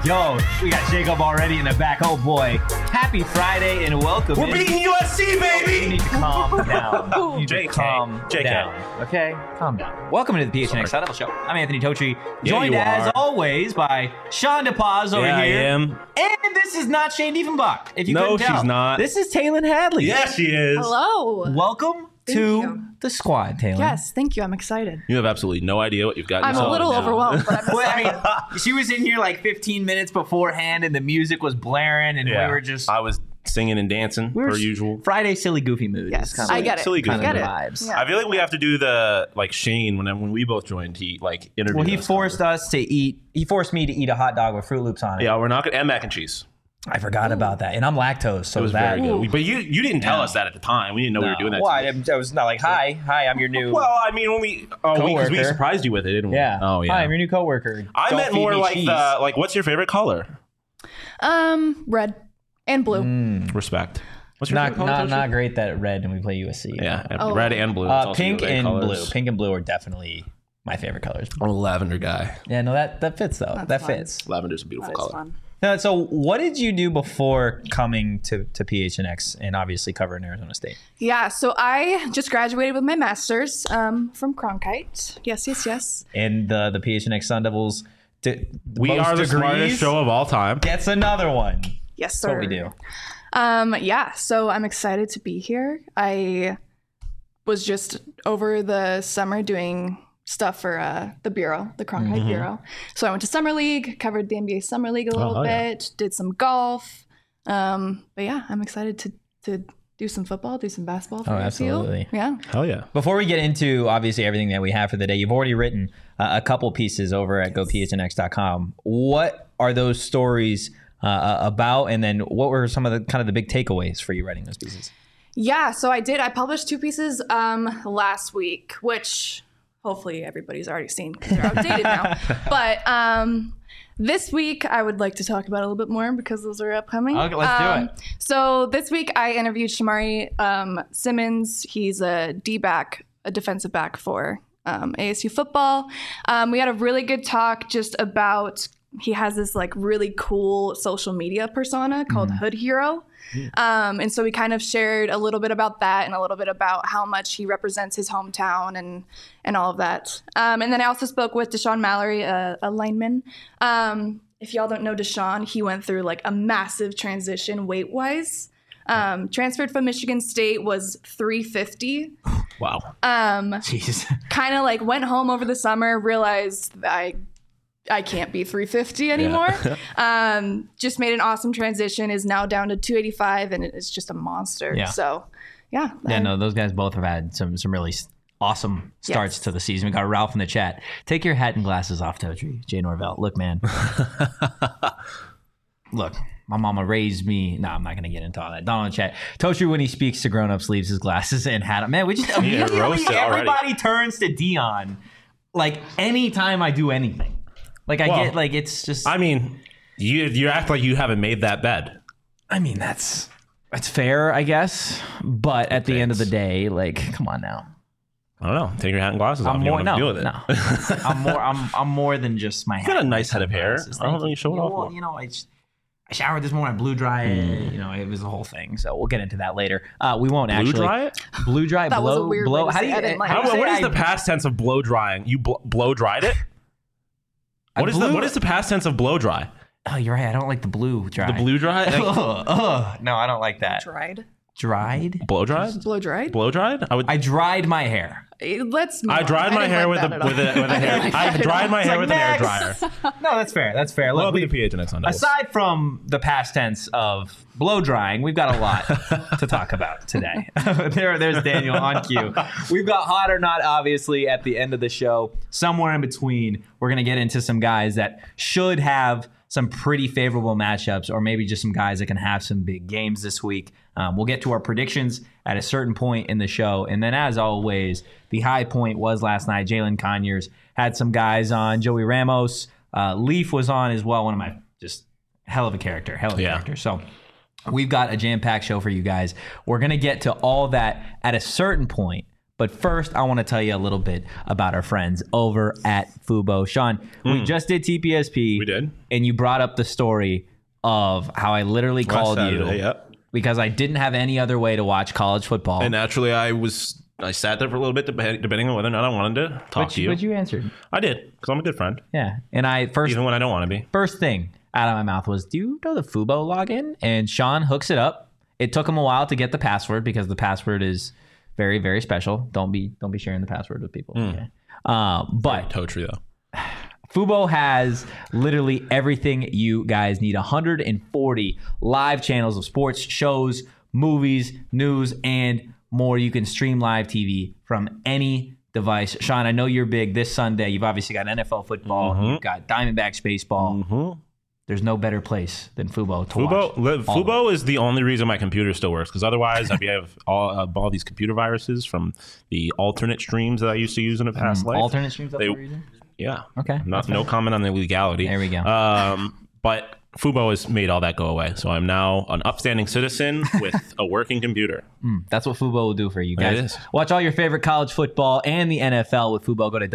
Yo, we got Jacob already in the back. Oh boy. Happy Friday and welcome. We're beating USC, baby! You need to calm down. You JK. calm JK. down. Okay? Calm down. Welcome to the PHNX Sun Devil Show. I'm Anthony Totri, Yeah, joined you as are. always by Sean DePaz over Yeah, I here. am. And this is not Shane Diefenbach. If you No, couldn't tell. she's not. This is Taylin Hadley. Yes, she is. Hello. Welcome Thank to you. the squad, Taylin. Yes, thank you. I'm excited. You have absolutely no idea what you've got I'm yourself a little into. overwhelmed, but I'm Well, excited. I mean, she was in here like 15 minutes beforehand, and the music was blaring, and Yeah. we were just I was singing and dancing per usual. Friday silly goofy mood. Yes, is kinda I get it. Silly kind goofy. of the Get it. vibes. Yeah. I feel like we have to do the Shane when we both joined. He interviewed. Well, he us. forced us to eat. He forced me to eat a hot dog with Fruit Loops on it. Yeah, we're not gonna and mac and cheese. I forgot about that, and I'm lactose, so It was that. very good. But you didn't tell us that at the time. We didn't know we were doing that. Well, to you. I was not like, hi, I'm your new. Well, I mean, when because we Coworker. surprised you with it, didn't we? yeah. Oh yeah. Hi, I'm your new coworker. I Don't meant feed more me like cheese. what's your favorite color? Red and blue. Respect. What's your favorite color? Not great that red, and we play USC. Yeah, Oh. red and blue. It's also Pink your and colors. blue. Pink and blue are definitely my favorite colors. I'm a lavender guy. Yeah, no, that fits though. That's that fun. fits. Lavender's a beautiful That is color. fun. So what did you do before coming to PHNX and obviously covering Arizona State? Yeah, so I just graduated with my master's from Cronkite. Yes. And the PHNX Sun Devils, We are the smartest show of all time. Gets another one. Yes, sir. That's what we do. Yeah, so I'm excited to be here. I was just over the summer doing stuff for the Bureau, the Cronkite Bureau. So I went to Summer League, covered the NBA Summer League a little bit, did some golf. But yeah, I'm excited to do some football, do some basketball for absolutely. Yeah. Hell yeah. Before we get into obviously everything that we have for the day, you've already written a couple pieces over at gophnx.com. What are those stories about? And then what were some of the kind of the big takeaways for you writing those pieces? Yeah, so I published 2 pieces last week, which hopefully everybody's already seen because they're outdated now. But this week I would like to talk about a little bit more because those are upcoming. Okay, let's do it. So this week I interviewed Shamari Simmons. He's a D-back, a defensive back for ASU football. We had a really good talk just about, he has this like really cool social media persona called Hood Hero. And so we kind of shared a little bit about that and a little bit about how much he represents his hometown and all of that. And then I also spoke with Deshaun Mallory, a lineman. If y'all don't know Deshaun, he went through like a massive transition weight-wise. Transferred from Michigan State, was 350. Wow. Jeez. Kind of like went home over the summer, realized that I can't be 350 anymore. Just made an awesome transition, is now down to 285, and it's just a monster. Yeah. So, yeah. Yeah, no, those guys both have had some really awesome starts to the season. We got Ralph in the chat. Take your hat and glasses off, Totri. Jay Norvell. Look, man. Look, my mama raised me. No, I'm not going to get into all that. Don in the chat. Totri, when he speaks to grown-ups, leaves his glasses and hat on. Man, we just immediately, roasted already. everybody turns to Dion. Like, anytime I do anything. Like, I get, like, it's just... I mean, you act like you haven't made that bed. I mean, that's fair, I guess. But at the end of the day, like, come on now. I don't know. Take your hat and glasses off. I'm You more don't have to deal with it. no. I'm more than just my. You got a nice head of hair. Sunglasses. I don't Thank know you show it off Well, more. you know, I showered this morning. I blew dry it. You know, it was a whole thing. So we'll get into that later. We won't Blue actually dry it? Blue dry. That was a weird way to How do say you? it. I didn't like how it. do you What say is the past tense of blow drying? You blow dried it? What is the past tense of blow dry? Oh, you're right. I don't like the blue dry. The blue dry? Like, No, I don't like that. Dried. blow dried? Blow dried? Blow dried? I dried my hair. Let's move I on. dried my didn't hair like with that a at all. with a hair. I dried my hair with an air dryer. No, that's fair. That's fair. Look, Welcome to PHNX on Devils. aside from the past tense of blow drying, we've got a lot to talk about today. There's Daniel on cue. We've got hot or not, obviously, at the end of the show. Somewhere in between, we're going to get into some guys that should have some pretty favorable matchups, or maybe just some guys that can have some big games this week. We'll get to our predictions at a certain point in the show. And then, as always, the high point was last night. Jalen Conyers had some guys on. Joey Ramos. Leaf was on as well. One of my just hell of a character. So we've got a jam-packed show for you guys. We're going to get to all that at a certain point. But first, I want to tell you a little bit about our friends over at Fubo. Sean, we just did TPSP. We did. And you brought up the story of how I literally called Saturday, you because I didn't have any other way to watch college football. And naturally, I sat there for a little bit, debating on whether or not I wanted to talk to you. But you answered. I did, because I'm a good friend. Yeah. And even when I don't want to be. First thing out of my mouth was, do you know the Fubo login? And Sean hooks it up. It took him a while to get the password because the password is very, very special. Don't be sharing the password with people. Okay. But Totri, though. Fubo has literally everything you guys need. 140 live channels of sports, shows, movies, news, and more. You can stream live TV from any device. Sean, I know you're big this Sunday. You've obviously got NFL football. You've got Diamondbacks baseball. There's no better place than Fubo to watch. Fubo is the only reason my computer still works, because otherwise I'd have all these computer viruses from the alternate streams that I used to use in a past life. Alternate streams that you're using? Yeah. Okay. No comment on the legality. There we go. But Fubo has made all that go away. So I'm now an upstanding citizen with a working computer. That's what Fubo will do for you guys. It is. Watch all your favorite college football and the NFL with Fubo. Go to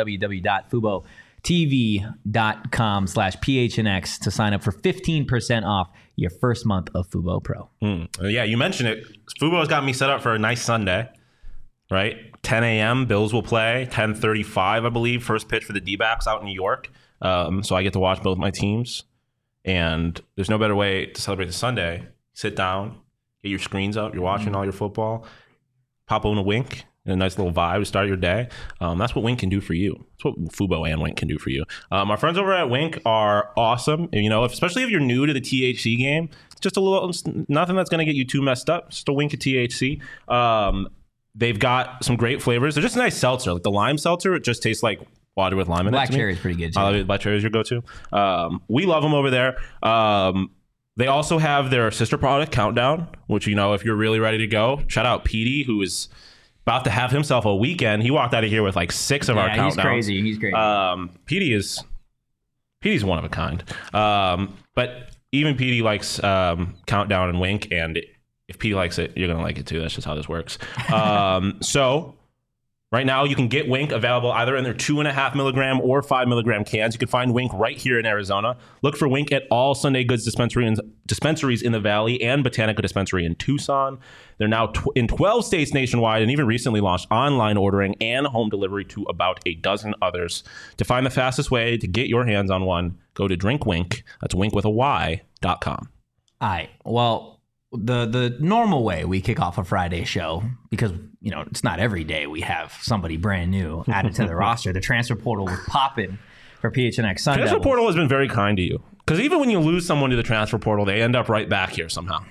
www.FuboTV.com/PHNX to sign up for 15% off your first month of Fubo Pro. Yeah, you mentioned it. Fubo's got me set up for a nice Sunday, right? 10 a.m. Bills will play. 10:35, I believe, first pitch for the D-backs out in New York. So I get to watch both my teams. And there's no better way to celebrate the Sunday. Sit down, get your screens up. You're watching all your football. Pop on a Wink. And a nice little vibe to start your day. That's what Wink can do for you. That's what Fubo and Wink can do for you. Our friends over at Wink are awesome. And, especially if you're new to the THC game, it's just nothing that's going to get you too messed up. Just a wink of THC. They've got some great flavors. They're just a nice seltzer. Like the lime seltzer, it just tastes like water with lime in it. Black cherry is pretty good too. Black cherry is your go-to. We love them over there. They also have their sister product, Countdown, which, if you're really ready to go, shout out Petey, who is about to have himself a weekend. He walked out of here with like 6 of our Countdowns. He's crazy. Petey's one of a kind. But even Petey likes Countdown and Wink, and if Petey likes it, you're going to like it too. That's just how this works. So right now, you can get Wink available either in their 2.5 milligram or 5 milligram cans. You can find Wink right here in Arizona. Look for Wink at all Sunday Goods dispensaries in the Valley and Botanica Dispensary in Tucson. They're now in 12 states nationwide and even recently launched online ordering and home delivery to about a dozen others. To find the fastest way to get your hands on one, go to DrinkWink. That's wink with a Y.com. All right. Well, the normal way we kick off a Friday show, because it's not every day we have somebody brand new added to the roster. The transfer portal was popping for PHNX Sun Transfer Devils. portal has been very kind to you, because even when you lose someone to the transfer portal, they end up right back here somehow.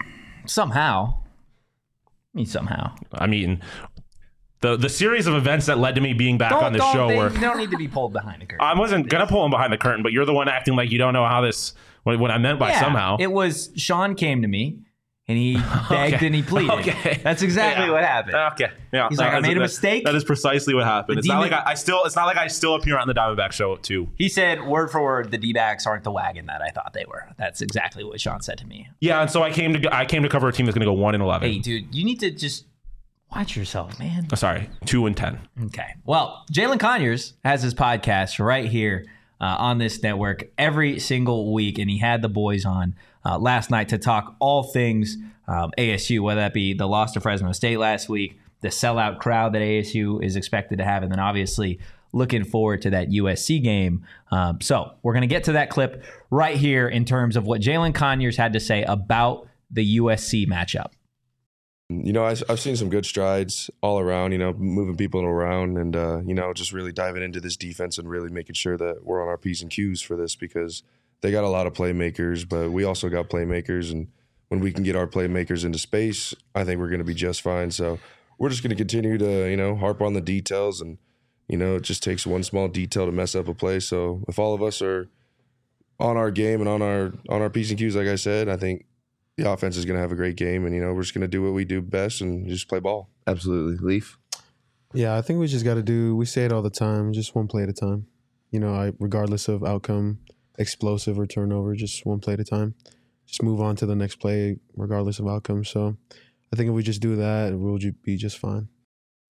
I mean, the series of events that led to me being back on this show were. They don't need to be pulled behind the curtain. I wasn't gonna pull him behind the curtain, but you're the one acting like you don't know how this. What I meant by somehow. It was Sean came to me. And he begged and he pleaded. Okay. That's exactly what happened. Okay. Yeah. He's like, I made a mistake. That is precisely what happened. It's not like I still appear on the Diamondback show too. He said, word for word, the D-backs aren't the wagon that I thought they were. That's exactly what Sean said to me. Yeah, and so I came to cover a team that's going to go 1-11. Hey, dude, you need to just watch yourself, man. Sorry, 2-10. Okay. Well, Jalen Conyers has his podcast right here on this network every single week, and he had the boys on last night to talk all things ASU, whether that be the loss to Fresno State last week, the sellout crowd that ASU is expected to have, and then obviously looking forward to that USC game. So we're going to get to that clip right here in terms of what Jalen Conyers had to say about the USC matchup. I've seen some good strides all around, moving people around and, just really diving into this defense and really making sure that we're on our P's and Q's for this, because they got a lot of playmakers, but we also got playmakers. And when we can get our playmakers into space, I think we're going to be just fine. So we're just going to continue to, harp on the details. And, it just takes one small detail to mess up a play. So if all of us are on our game and on our P's and Q's, like I said, I think the offense is going to have a great game, and we're just going to do what we do best and just play ball. Absolutely. Leaf? Yeah, I think we just got to do, we say it all the time, just one play at a time. Regardless of outcome, explosive or turnover, just one play at a time. Just move on to the next play regardless of outcome. So I think if we just do that, we'll be just fine.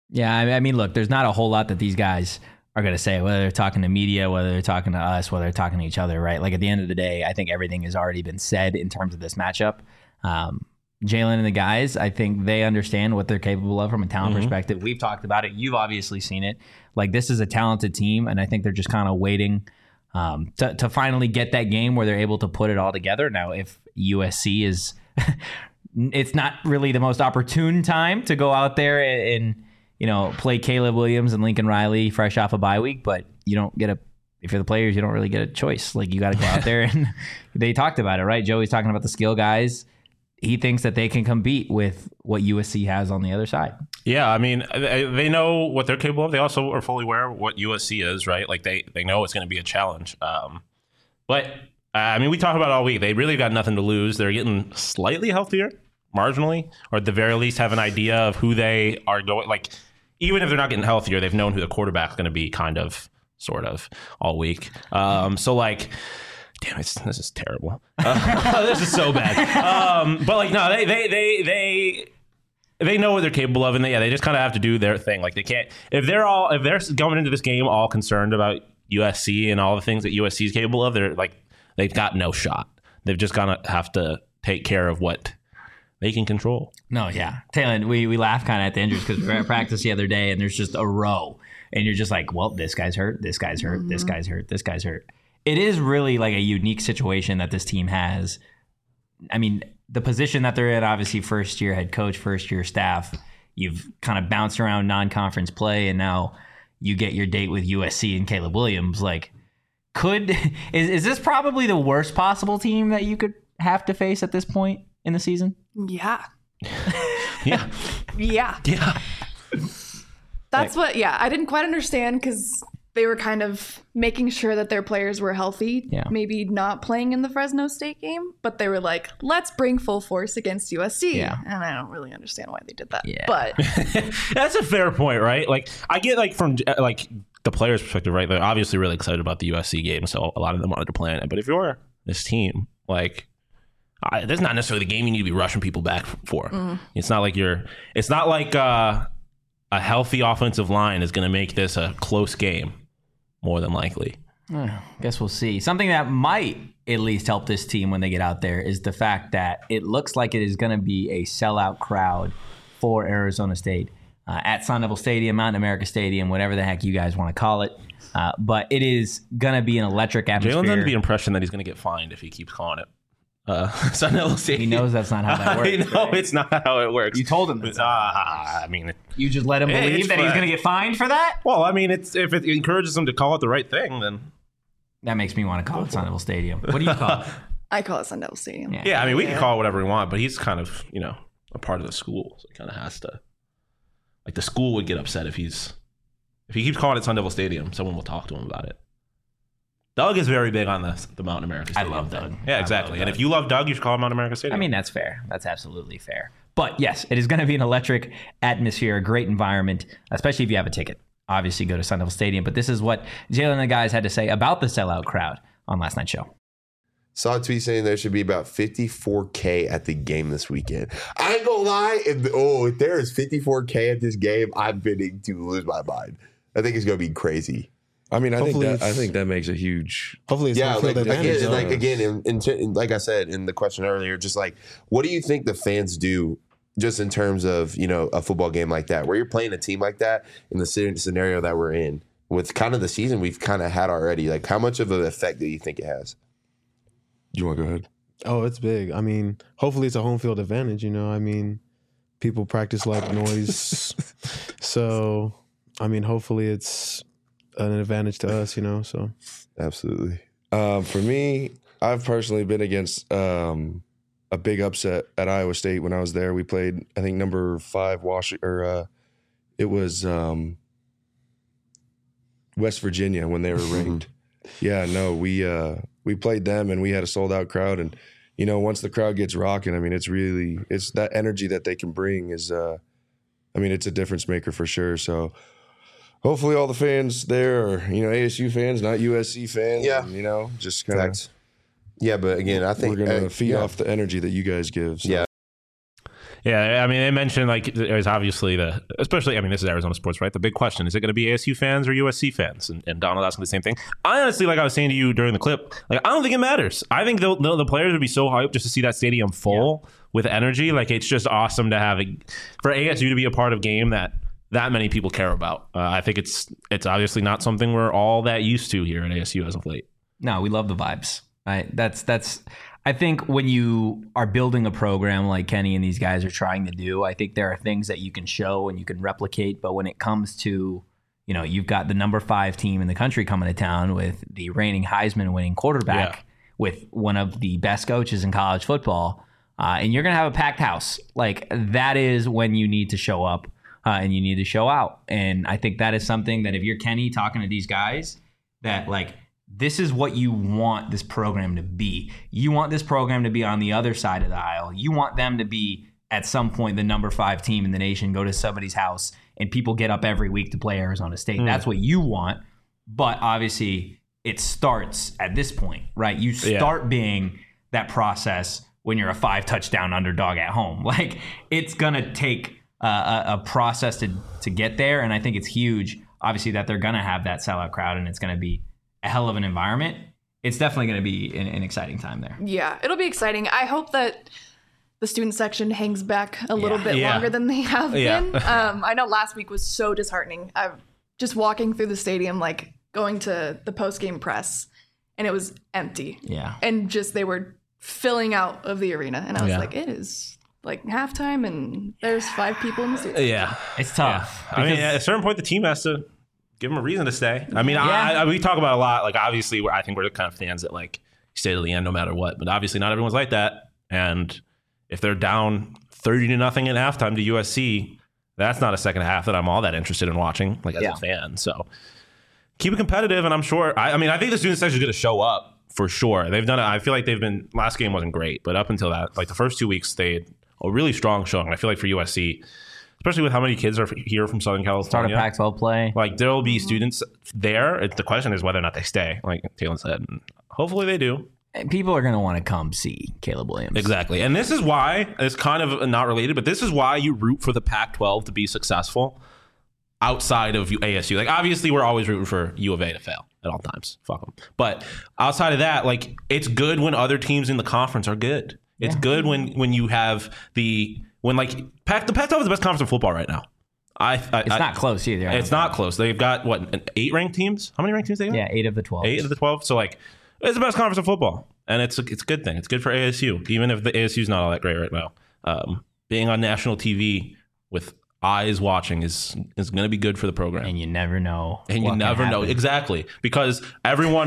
Yeah, I mean, look, there's not a whole lot that these guys are going to say, whether they're talking to media, whether they're talking to us, whether they're talking to each other, right? Like at the end of the day, I think everything has already been said in terms of this matchup. Jalen and the guys, I think they understand what they're capable of from a talent perspective. We've talked about it. You've obviously seen it. Like, this is a talented team, and I think they're just kind of waiting to finally get that game where they're able to put it all together. Now, if USC is, it's not really the most opportune time to go out there and play Caleb Williams and Lincoln Riley fresh off a bye week, but you don't get if you're the players, you don't really get a choice. Like, you got to go out there, and they talked about it, right? Joey's talking about the skill guys. He thinks that they can compete with what USC has on the other side. Yeah, I mean, they know what they're capable of. They also are fully aware of what USC is, right? Like, they know it's going to be a challenge. But, I mean, we talk about it all week. They really got nothing to lose. They're getting slightly healthier, marginally, or at the very least have an idea of who they are going. Like, even if they're not getting healthier, they've known who the quarterback's going to be kind of, sort of, all week. So, like... Damn, this is terrible. This is so bad. But like, no, they know what they're capable of, and they just kind of have to do their thing. Like, they can't if they're going into this game all concerned about USC and all the things that USC is capable of. They've got no shot. They've just gotta have to take care of what they can control. No, yeah, Taylor, we laugh kind of at the injuries because we were at practice the other day, and there's just a row, and you're just like, well, this guy's hurt, this guy's hurt, this guy's hurt, this guy's hurt. It is really like a unique situation that this team has. I mean, the position that they're in, obviously first year head coach, first year staff, you've kind of bounced around non-conference play, and now you get your date with USC and Caleb Williams. Like, is this probably the worst possible team that you could have to face at this point in the season? Yeah. Yeah. Yeah. Yeah. That's I didn't quite understand because they were kind of making sure that their players were healthy, maybe not playing in the Fresno State game, but they were like, let's bring full force against USC. Yeah. And I don't really understand why they did that. Yeah. But that's a fair point, right? Like, I get, like, from like the players' perspective, right? They're obviously really excited about the USC game, so a lot of them wanted to play in it. But if you're this team, like, that's not necessarily the game you need to be rushing people back for. It's not like a healthy offensive line is going to make this a close game. More than likely. Guess we'll see. Something that might at least help this team when they get out there is the fact that it looks like it is going to be a sellout crowd for Arizona State at Sun Devil Stadium, Mountain America Stadium, whatever the heck you guys want to call it. But it is going to be an electric atmosphere. Jalen's under the impression that he's going to get fined if he keeps calling it Sun Devil Stadium. He knows that's not how that works. I know, right? It's not how it works. You told him that. I mean, you just let him believe that he's going to get fined for that? Well, I mean, if it encourages him to call it the right thing, then that makes me want to call it Sun Devil Stadium. What do you call it? I call it Sun Devil Stadium. Yeah, I mean, we can call it whatever we want, but he's kind of, a part of the school, so he kind of has to. Like, the school would get upset if he keeps calling it Sun Devil Stadium. Someone will talk to him about it. Doug is very big on the Mountain America Stadium. I love Doug. Yeah, exactly. And if you love Doug, you should call him Mountain America Stadium. I mean, that's fair. That's absolutely fair. But yes, it is going to be an electric atmosphere, a great environment, especially if you have a ticket. Obviously, go to Sun Devil Stadium. But this is what Jalen and the guys had to say about the sellout crowd on last night's show. Saw a tweet saying there should be about 54K at the game this weekend. I ain't gonna lie, if there is 54K at this game, I'm bidding to lose my mind. I think it's gonna be crazy. I mean, I think that makes a huge. Hopefully, it's home field advantage. Again, like I said in the question earlier, just like, what do you think the fans do, just in terms of a football game like that, where you're playing a team like that in the scenario that we're in, with kind of the season we've kind of had already? Like, how much of an effect do you think it has? You want to go ahead? Oh, it's big. I mean, hopefully it's a home field advantage. I mean, people practice like noise, so I mean, hopefully it's an advantage to us, so. Absolutely. For me, I've personally been against a big upset at Iowa State when I was there. We played, I think, number 5 Washington, it was West Virginia when they were ranked. Yeah, no, we played them and we had a sold out crowd, and once the crowd gets rocking, I mean, it's that energy that they can bring is, I mean, it's a difference maker for sure. So hopefully all the fans there are, ASU fans, not USC fans. Yeah. And, just kind of. Yeah, but again, I think we're going to feed off the energy that you guys give. So. Yeah. Yeah, I mean, they mentioned like there's obviously especially, I mean, this is Arizona sports, right? The big question is it going to be ASU fans or USC fans? And Donald asking the same thing. I honestly, like I was saying to you during the clip, like I don't think it matters. I think the players would be so hyped just to see that stadium full with energy. Like it's just awesome to have for ASU to be a part of game that many people care about. I think it's obviously not something we're all that used to here at ASU as of late. No, we love the vibes. Right? That's. I think when you are building a program like Kenny and these guys are trying to do, I think there are things that you can show and you can replicate. But when it comes to, you've got the number 5 team in the country coming to town with the reigning Heisman winning quarterback, with one of the best coaches in college football, and you're going to have a packed house. Like that is when you need to show up and you need to show out. And I think that is something that if you're Kenny talking to these guys, that like, this is what you want this program to be. You want this program to be on the other side of the aisle. You want them to be, at some point, the number 5 team in the nation, go to somebody's house, and people get up every week to play Arizona State. That's what you want. But obviously, it starts at this point, right? You start being that process when you're a 5-touchdown underdog at home. Like, it's going to take a process to get there, and I think it's huge, obviously, that they're going to have that sellout crowd, and it's going to be a hell of an environment. It's definitely going to be an exciting time there. Yeah, it'll be exciting. I hope that the student section hangs back a little bit longer than they have been. I know last week was so disheartening. I'm just walking through the stadium, like going to the post-game press, and it was empty. Yeah. And just they were filling out of the arena. And I was like, it is like halftime and there's 5 people in the stadium. Yeah. It's tough. I mean, at a certain point, the team has to give them a reason to stay. I mean, we talk about a lot. Like, obviously, I think we're the kind of fans that like stay to the end no matter what. But obviously, not everyone's like that. And if they're down 30-0 at halftime to USC, that's not a second half that I'm all that interested in watching, like as a fan. So keep it competitive, and I'm sure. I mean, I think the student section is going to show up for sure. They've done it. I feel like they've been. Last game wasn't great, but up until that, like the first 2 weeks, they had a really strong showing. I feel like for USC. Especially with how many kids are here from Southern California. Start a Pac-12 play. Like, there will be students there. The question is whether or not they stay, like Taylor said. And hopefully they do. People are going to want to come see Caleb Williams. Exactly. And this is why, it's kind of not related, but this is why you root for the Pac-12 to be successful outside of ASU. Like, obviously, we're always rooting for U of A to fail at all times. Fuck them. But outside of that, like, it's good when other teams in the conference are good. It's good when you have when like the Pac-12 is the best conference in football right now. It's not close either. It's not close. They've got 8 ranked teams. How many ranked teams they got? Yeah, 8 of the 12. 8 of the 12. So like, it's the best conference in football, and it's a good thing. It's good for ASU, even if the ASU is not all that great right now. Being on national TV with eyes watching is going to be good for the program. And you never know. And you never know. Exactly. Because everyone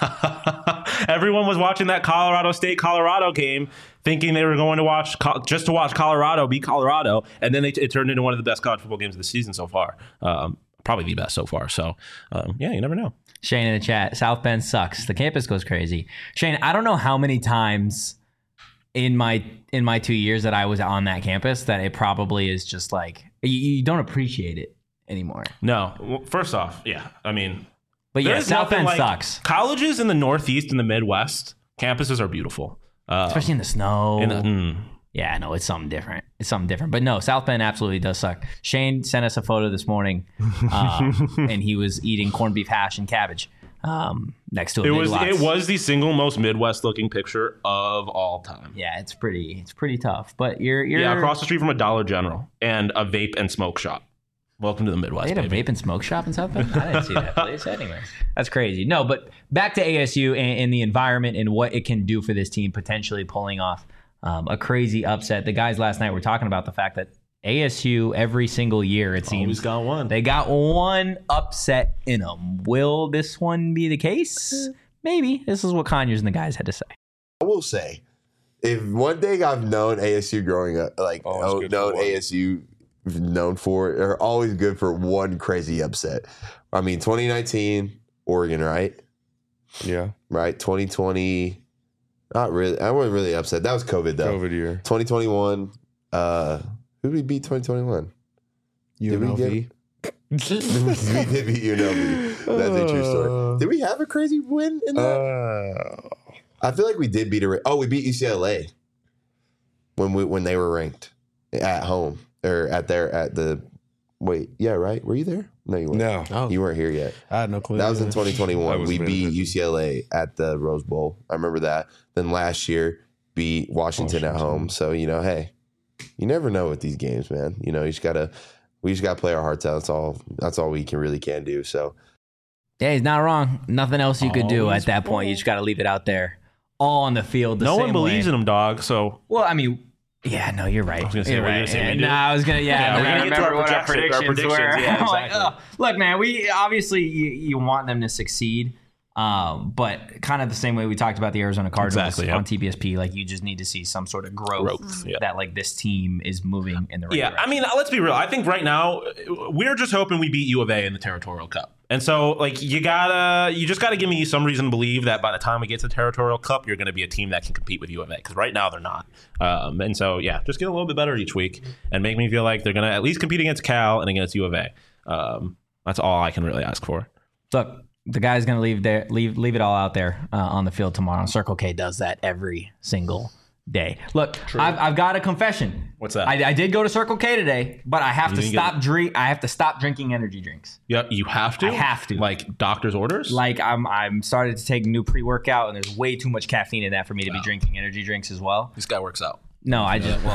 was watching that Colorado State-Colorado game thinking they were going to watch Colorado beat Colorado. And then it turned into one of the best college football games of the season so far. Probably the best so far. So, you never know. Shane in the chat, South Bend sucks. The campus goes crazy. Shane, I don't know how many times in my 2 years that I was on that campus that it probably is just like you don't appreciate it anymore. No. Well, first off, yeah. I mean, but yeah, South Bend sucks. Colleges in the Northeast and the Midwest, campuses are beautiful. Especially in the snow. Yeah, no, it's something different. But no, South Bend absolutely does suck. Shane sent us a photo this morning, and he was eating corned beef hash and cabbage next to a Big Lots. It was the single most Midwest looking picture of all time. Yeah, it's pretty tough. But you're across the street from a Dollar General and a vape and smoke shop. Welcome to the Midwest. They had a vape and smoke shop in South Bend? I didn't see that place anyway. That's crazy. No, but back to ASU and the environment and what it can do for this team, potentially pulling off a crazy upset. The guys last night were talking about the fact that ASU every single year, it seems, always got one. They got one upset in them. Will this one be the case? Maybe. This is what Conyers and the guys had to say. I will say, if one thing I've known ASU growing up, like known ASU known for, they're always good for one crazy upset. I mean, 2019 Oregon, right? Yeah. Right. 2020. Not really. I wasn't really upset. That was COVID, though. COVID year. 2021. Who did we beat 2021? UNLV. we did beat UNLV. That's a true story. Did we have a crazy win in that? I feel like we did beat we beat UCLA when they were ranked. at home or at the. Wait, yeah, right. Were you there? No, you weren't. No. Oh, You weren't here yet. I had no clue. That was in I 2021. wasn't We paying beat attention. UCLA at the Rose Bowl. I remember that. Then last year beat Washington at home. So hey, you never know with these games, man. We just gotta play our hearts out. That's all we can do. So Yeah, he's not wrong. Nothing else you could do Always at that point. You just got to leave it out there, all on the field. No one believes in him, dog. So Well, I mean, yeah, no, you're right. was gonna say, You're were you right. gonna say we And, do? I was gonna. Yeah, we're I gonna get to remember our what our predictions, predictions were. yeah, I'm like, exactly. look, man, we obviously you want them to succeed, but kind of the same way we talked about the Arizona Cardinals Exactly, yep. on TBSP. Like, you just need to see some sort of growth yeah. that like this team is moving in the right Yeah, direction. I mean, let's be real. I think right now we're just hoping we beat U of A in the Territorial Cup. And so, like, you just gotta give me some reason to believe that by the time we get to the Territorial Cup, you're going to be a team that can compete with U of A. Because right now they're not. And so, yeah, just get a little bit better each week and make me feel like they're going to at least compete against Cal and against U of A. That's all I can really ask for. Look, the guy's going to leave it all out there on the field tomorrow. Circle K does that every single day. Look, I've got a confession. What's that? I did go to Circle K today, but I have to didn't get I have to stop drinking energy drinks. Yeah, you have to. I have to. Like doctor's orders. Like I'm started to take new pre-workout, and there's way too much caffeine in that for me to be drinking energy drinks as well. This guy works out. No, I just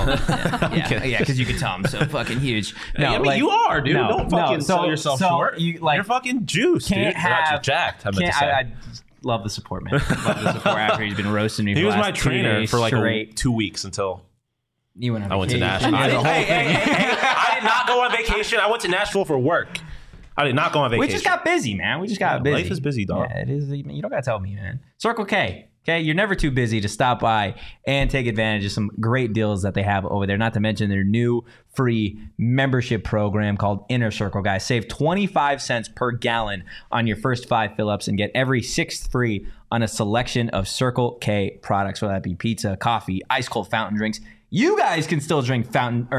yeah, because you can tell I'm so fucking huge. No, I mean, you are, dude. no, Don't fucking no, sell yourself short. You're fucking juiced, can't dude. have Not jacked. I meant to can't, say. I love the support, man. Love the support after he's been roasting me. He for was the my last 2 trainer days for like straight. 2 weeks until You went on I went to vacation. Nashville. There's a whole Hey, I did not go on vacation. I went to Nashville for work. I did not go on vacation. We just got busy, man. We just got busy. life is busy, dog. Yeah, it is. You don't got to tell me, man. Circle K. Okay, you're never too busy to stop by and take advantage of some great deals that they have over there. Not to mention their new free membership program called Inner Circle, guys. Save 25 cents per gallon on your first 5 fill-ups and get every 6th free on a selection of Circle K products, whether that be pizza, coffee, ice cold fountain drinks. You guys can still drink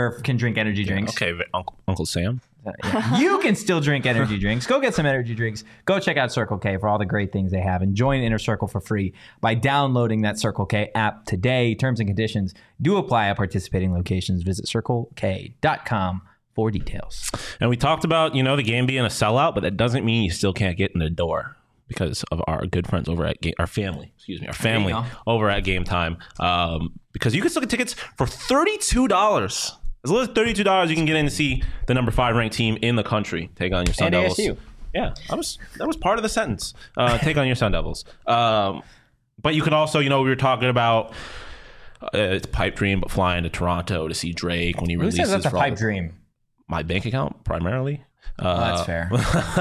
energy drinks. Okay, Uncle Sam. You can still drink energy drinks. Go get some energy drinks. Go check out Circle K for all the great things they have. And join Inner Circle for free by downloading that Circle K app today. Terms and conditions do apply at participating locations. Visit CircleK.com for details. And we talked about, the game being a sellout, but that doesn't mean you still can't get in the door because of our good friends over at our family go. over at Game Time. Because you can still get tickets for $32. As little as $32, you can get in to see the number 5 ranked team in the country take on your Sun And Devils. ASU. Yeah, that was part of the sentence. Take on your Sun Devils. But you could also, we were talking about it's a pipe dream, but flying to Toronto to see Drake when he Who releases. says that's a for all pipe the- dream? My bank account, primarily. That's fair.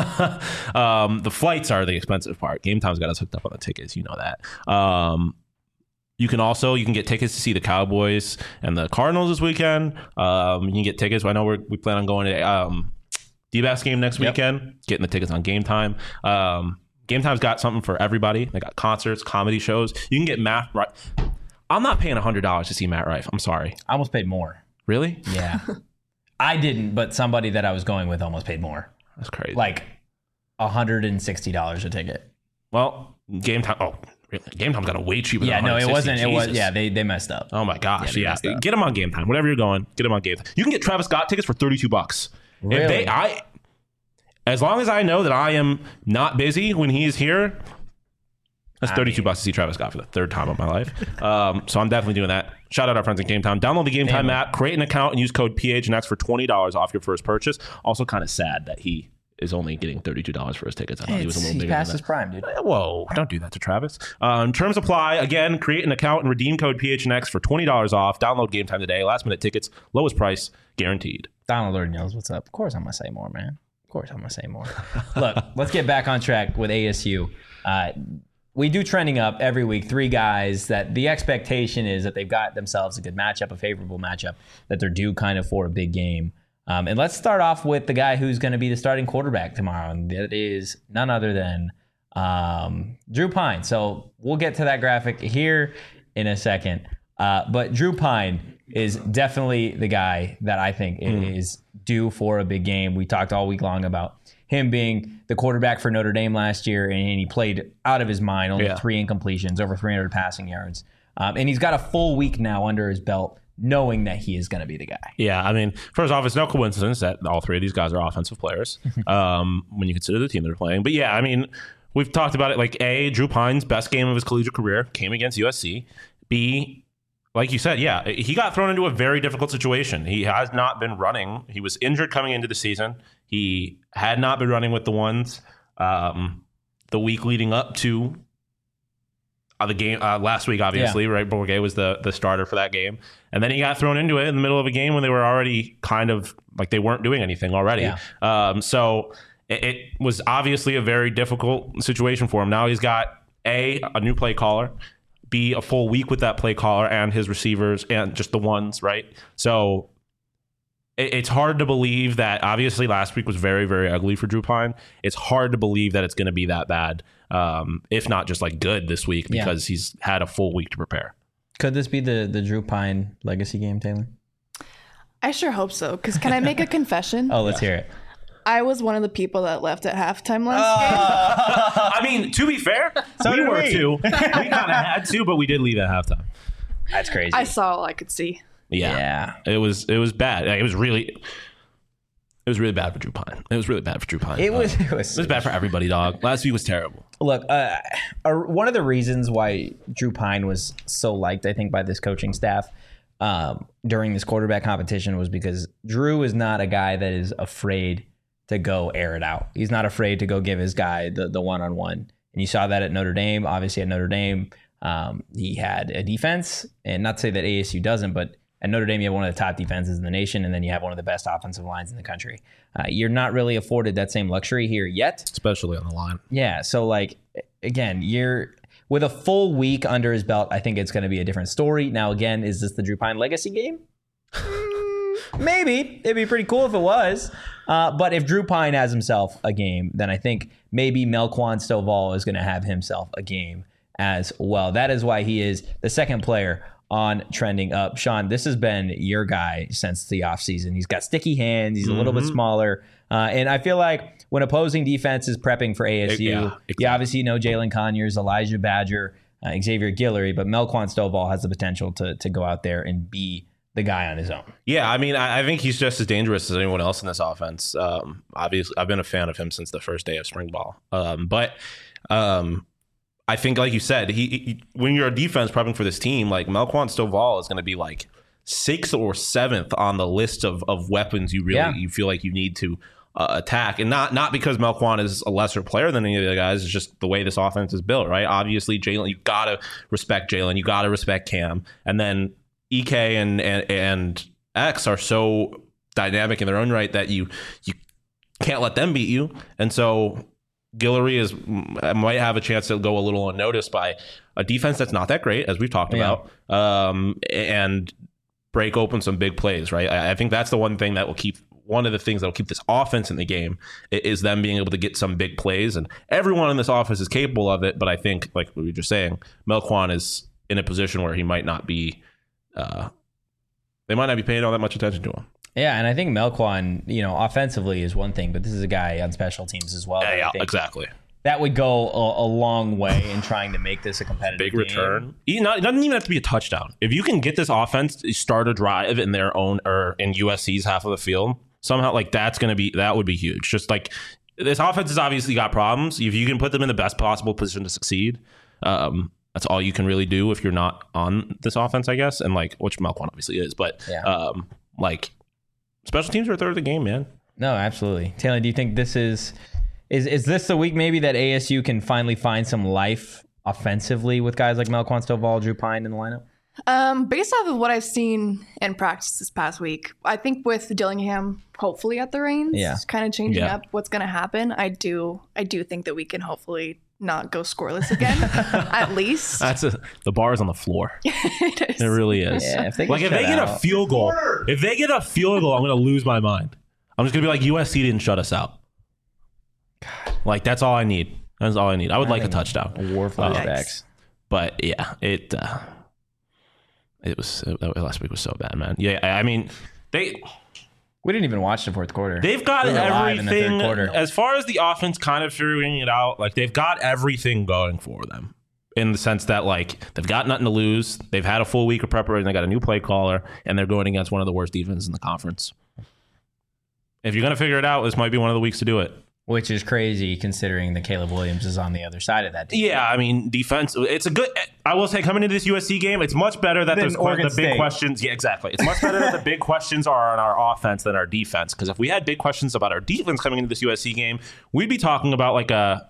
The flights are the expensive part. Game Time's got us hooked up on the tickets. You know that. You can get tickets to see the Cowboys and the Cardinals this weekend. You can get tickets. I know we plan on going to D-Backs game next weekend. Getting the tickets on Game Time. Game Time's got something for everybody. They got concerts, comedy shows. You can get Matt Rife. I'm not paying $100 to see Matt Rife. I'm sorry. I almost paid more. Really? Yeah. I didn't, but somebody that I was going with almost paid more. That's crazy. Like $160 a ticket. Well, Game Time. Oh, really? Game Time's got a way cheaper. Yeah, than no, it 160. wasn't. It was. Jesus. Yeah, they messed up. Oh my gosh, they yeah. messed up. Get them on Game Time. Whatever you're going, get them on Game Time. You can get Travis Scott tickets for $32. Really? As long as I know that I am not busy when he is here, that's $32 to see Travis Scott for the 3rd time of my life. So I'm definitely doing that. Shout out our friends at Game Time. Download the Game Time app, create an account, and use code PHNX for $20 off your first purchase. Also, kind of sad that he is only getting $32 for his tickets. I thought he was a little He's bigger past than his prime, dude. that. Whoa, don't do that to Travis. Terms apply. Again, create an account and redeem code PHNX for $20 off. Download Game Time today. Last minute tickets, lowest price, guaranteed. Donald already knows what's up. Of course I'm going to say more, man. Of course I'm going to say more. Look, let's get back on track with ASU. We do trending up every week. 3 guys that the expectation is that they've got themselves a good matchup, a favorable matchup, that they're due kind of for a big game. And let's start off with the guy who's going to be the starting quarterback tomorrow, and that is none other than Drew Pine. So we'll get to that graphic here in a second. But Drew Pine is definitely the guy that I think is due for a big game. We talked all week long about him being the quarterback for Notre Dame last year, and he played out of his mind, only 3 incompletions, over 300 passing yards. And he's got a full week now under his belt knowing that he is going to be the guy. Yeah, I mean, first off, it's no coincidence that all three of these guys are offensive players when you consider the team they're playing. But yeah, I mean, we've talked about it. Like, A, Drew Pine's best game of his collegiate career came against USC. B, like you said, yeah, he got thrown into a very difficult situation. He has not been running. He was injured coming into the season. He had not been running with the ones the week leading up to the game last week, obviously, right? Bourget was the starter for that game. And then he got thrown into it in the middle of a game when they were already kind of like they weren't doing anything already. Yeah. So it was obviously a very difficult situation for him. Now he's got a new play caller, B, a full week with that play caller and his receivers and just the ones, right? So it's hard to believe that. Obviously last week was very, very ugly for Drew Pine. It's hard to believe that it's going to be that bad, if not just like good this week, because he's had a full week to prepare. Could this be the Drew Pine legacy game, Taylor? I sure hope so. Because can I make a confession? Oh, let's hear it. I was one of the people that left at halftime last game. I mean, to be fair, So we did were we. too. We kind of had to, but we did leave at halftime. That's crazy. I saw all I could see. Yeah. It was bad. It was really bad for Drew Pine. It was really bad for Drew Pine. It was bad for everybody, dog. Last week was terrible. Look, one of the reasons why Drew Pine was so liked, I think, by this coaching staff during this quarterback competition was because Drew is not a guy that is afraid to go air it out. He's not afraid to go give his guy the one-on-one. And you saw that at Notre Dame. Obviously at Notre Dame, he had a defense, and not to say that ASU doesn't, but at Notre Dame, you have one of the top defenses in the nation, and then you have one of the best offensive lines in the country. You're not really afforded that same luxury here yet. Especially on the line. Yeah, so like, again, you're with a full week under his belt, I think it's going to be a different story. Now, again, is this the Drew Pine legacy game? Maybe. It'd be pretty cool if it was. But if Drew Pine has himself a game, then I think maybe Melquan Stovall is going to have himself a game as well. That is why he is the second player on Trending Up. Sean, this has been your guy since the offseason. He's got sticky hands. He's a little bit smaller. And I feel like when opposing defense is prepping for ASU, exactly. You obviously know Jalen Conyers, Elijah Badger, Xavier Guillory, but Melquan Stovall has the potential to go out there and be the guy on his own. Yeah, I mean, I think he's just as dangerous as anyone else in this offense. Obviously, I've been a fan of him since the first day of spring ball. But I think, like you said, he when you're a defense prepping for this team, like Melquan Stovall is going to be like 6th or 7th on the list of weapons you feel like you need to attack, and not because Melquan is a lesser player than any of the other guys. It's just the way this offense is built, right? Obviously, Jalen, you gotta respect Jalen, you gotta respect Cam, and then EK and X are so dynamic in their own right that you can't let them beat you, and so Guillory might have a chance to go a little unnoticed by a defense that's not that great, as we've talked about, and break open some big plays, right? I think that's one of the things that will keep this offense in the game is them being able to get some big plays, and everyone in this offense is capable of it. But I think, like we were just saying, Melquan is in a position where he might not be. They might not be paying all that much attention to him. Yeah, and I think Melquan, offensively is one thing, but this is a guy on special teams as well. Yeah, exactly. That would go a long way in trying to make this a competitive big game. Return. It doesn't even have to be a touchdown. If you can get this offense to start a drive in their own or in USC's half of the field, somehow, like that would be huge. Just like this offense has obviously got problems. If you can put them in the best possible position to succeed, that's all you can really do if you're not on this offense, I guess. And like, which Melquan obviously is, but like special teams are a third of the game, man. No, absolutely. Taylor, do you think this is this the week maybe that ASU can finally find some life offensively with guys like Melquan Stovall, Drew Pine in the lineup? Based off of what I've seen in practice this past week, I think with Dillingham hopefully at the reins, kind of changing up what's going to happen. I do think that we can hopefully not go scoreless again, at least. The bar is on the floor. It is. It really is. Yeah, if they get a field goal, I'm going to lose my mind. I'm just going to be like, USC didn't shut us out. God. Like, that's all I need. That's all I need. I would like a touchdown. War flashbacks. But yeah, last week was so bad, man. Yeah, I mean, we didn't even watch the fourth quarter. They've got everything. Quarter. As far as the offense kind of figuring it out, like they've got everything going for them. in the sense that like they've got nothing to lose. They've had a full week of preparation. They got a new play caller, and they're going against one of the worst defenses in the conference. If you're going to figure it out, this might be one of the weeks to do it. Which is crazy considering that Caleb Williams is on the other side of that team. Yeah, I mean, defense, it's a good, I will say, coming into this USC game, it's much better that there's the big questions. Yeah, exactly. It's much better that the big questions are on our offense than our defense. Because if we had big questions about our defense coming into this USC game, we'd be talking about like a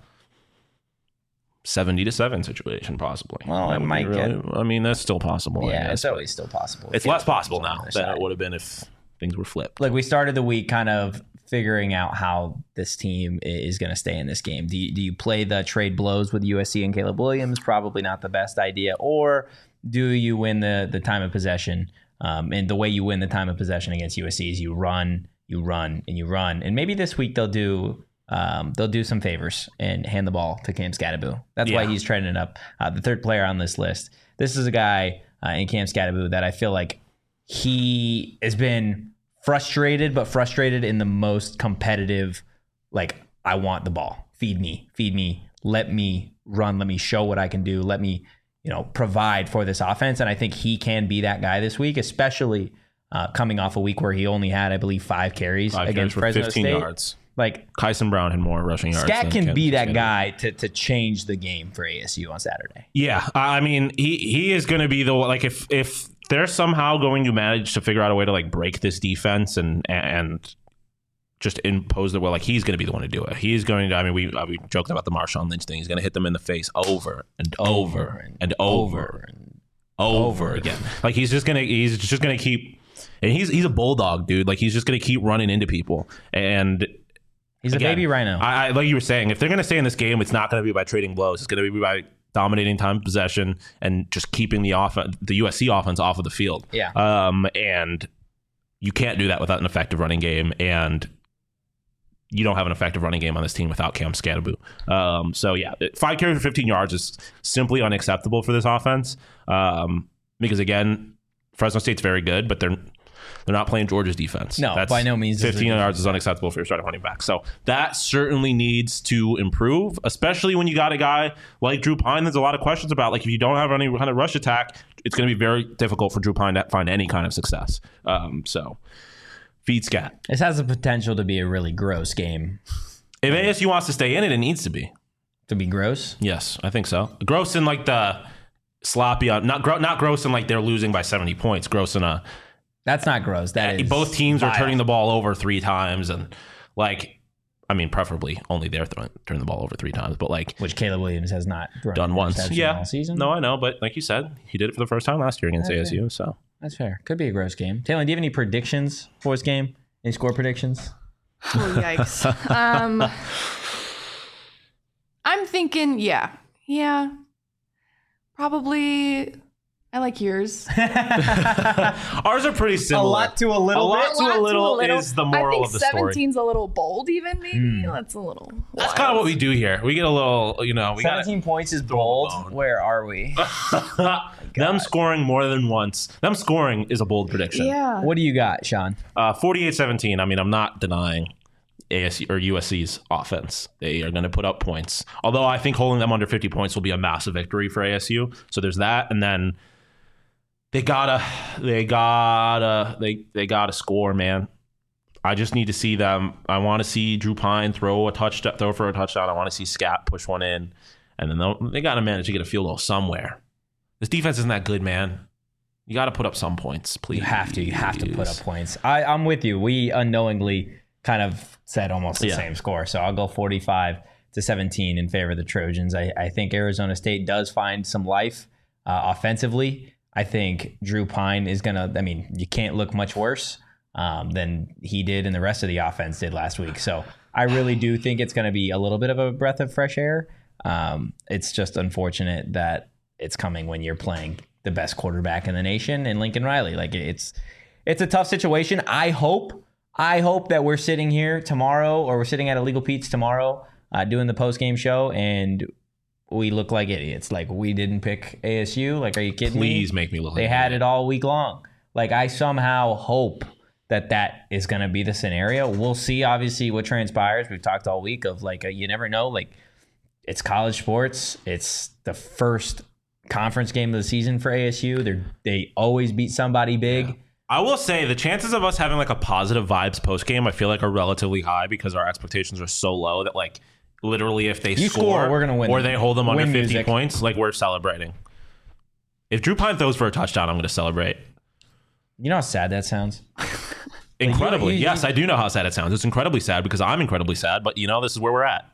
70-7 situation, possibly. Well, it might get. I mean, that's still possible. Yeah, it's always still possible. It's less possible now than it would have been if things were flipped. Like, we started the week kind of figuring out how this team is going to stay in this game. Do you play the trade blows with USC and Caleb Williams? Probably not the best idea. Or do you win the time of possession? And the way you win the time of possession against USC is you run, and you run. And maybe this week they'll do some favors and hand the ball to Cam Skattebo. That's why he's trending up. The third player on this list. This is a guy in Cam Skattebo that I feel like he has been frustrated in the most competitive, like, I want the ball. Feed me. Let me run. Let me show what I can do. Let me, provide for this offense. And I think he can be that guy this week, especially coming off a week where he only had, I believe, 5 carries against Fresno 15 State. yards. Like, Kyson Brown had more rushing yards. Scat can be that guy to change the game for ASU on Saturday. Yeah, I mean, he is going to be the, like, if they're somehow going to manage to figure out a way to like break this defense and just impose the will, like, he's going to be the one to do it. He's going to. I mean, we joked about the Marshawn Lynch thing. He's going to hit them in the face over and over again. Like, he's just going to keep. And he's a bulldog, dude. Like, he's just going to keep running into people. And he's a baby rhino. I like you were saying, if they're going to stay in this game, it's not going to be by trading blows. It's going to be by dominating time possession and just keeping the USC offense off of the field. Yeah. And you can't do that without an effective running game, and you don't have an effective running game on this team without Cam Skattebo. So yeah, 5 carries for 15 yards is simply unacceptable for this offense. Because again, Fresno State's very good, but they're not playing Georgia's defense. No, by no means. 15 yards is unacceptable for your starting running back. So that certainly needs to improve, especially when you got a guy like Drew Pine. There's a lot of questions about, like, if you don't have any kind of rush attack, it's going to be very difficult for Drew Pine to find any kind of success. So feed Scat. This has the potential to be a really gross game. If ASU wants to stay in it, it needs to be. To be gross? Yes, I think so. Gross in like the sloppy, not gross in like they're losing by 70 points. Gross in a... That's not gross. That is both teams vile. are turning the ball over 3 times, and like, I mean, preferably only they're turning the ball over 3 times, but like, which Caleb Williams has not done once. Yeah, all season. No, I know, but like you said, he did it for the first time last year against ASU. Fair. So that's fair. Could be a gross game. Taylor, do you have any predictions for this game? Any score predictions? Oh, yikes. I'm thinking, yeah, probably. I like yours. Ours are pretty similar. A lot to a little is the moral of the story. 17's a little bold, even maybe. That's a little. That's kind of what we do here. We get a little, we 17 points is bold. Where are we? Them scoring more than once. Them scoring is a bold prediction. Yeah. What do you got, Sean? 48-17. I mean, I'm not denying ASU or USC's offense. They are going to put up points. Although I think holding them under 50 points will be a massive victory for ASU. So there's that, and then they gotta score, man. I just need to see them. I want to see Drew Pine throw for a touchdown. I want to see Scat push one in, and then they got to manage to get a field goal somewhere. This defense isn't that good, man. You got to put up some points, please. You have to put up points. I'm with you. We unknowingly kind of said almost the same score, so I'll go 45-17 in favor of the Trojans. I think Arizona State does find some life offensively. I think Drew Pine is gonna. I mean, you can't look much worse than he did and the rest of the offense did last week. So I really do think it's going to be a little bit of a breath of fresh air. It's just unfortunate that it's coming when you're playing the best quarterback in the nation in Lincoln Riley. Like, it's a tough situation. I hope that we're sitting here tomorrow, or we're sitting at Illegal Pete's tomorrow doing the post-game show, and we look like idiots. Like, we didn't pick ASU. Like, are you kidding me? Please make me look like They had it all week long. Like, I somehow hope that is going to be the scenario. We'll see, obviously, what transpires. We've talked all week of, like, you never know. Like, it's college sports. It's the first conference game of the season for ASU. They always beat somebody big. Yeah. I will say the chances of us having like a positive vibes post game, I feel like are relatively high because our expectations are so low that like literally if they score, we're gonna win. Or they hold them under 50 music. points, like we're celebrating. If Drew Pine throws for a touchdown, I'm going to celebrate. You know how sad that sounds? Incredibly. Yes, I do know how sad it sounds. It's incredibly sad because I'm incredibly sad, but this is where we're at.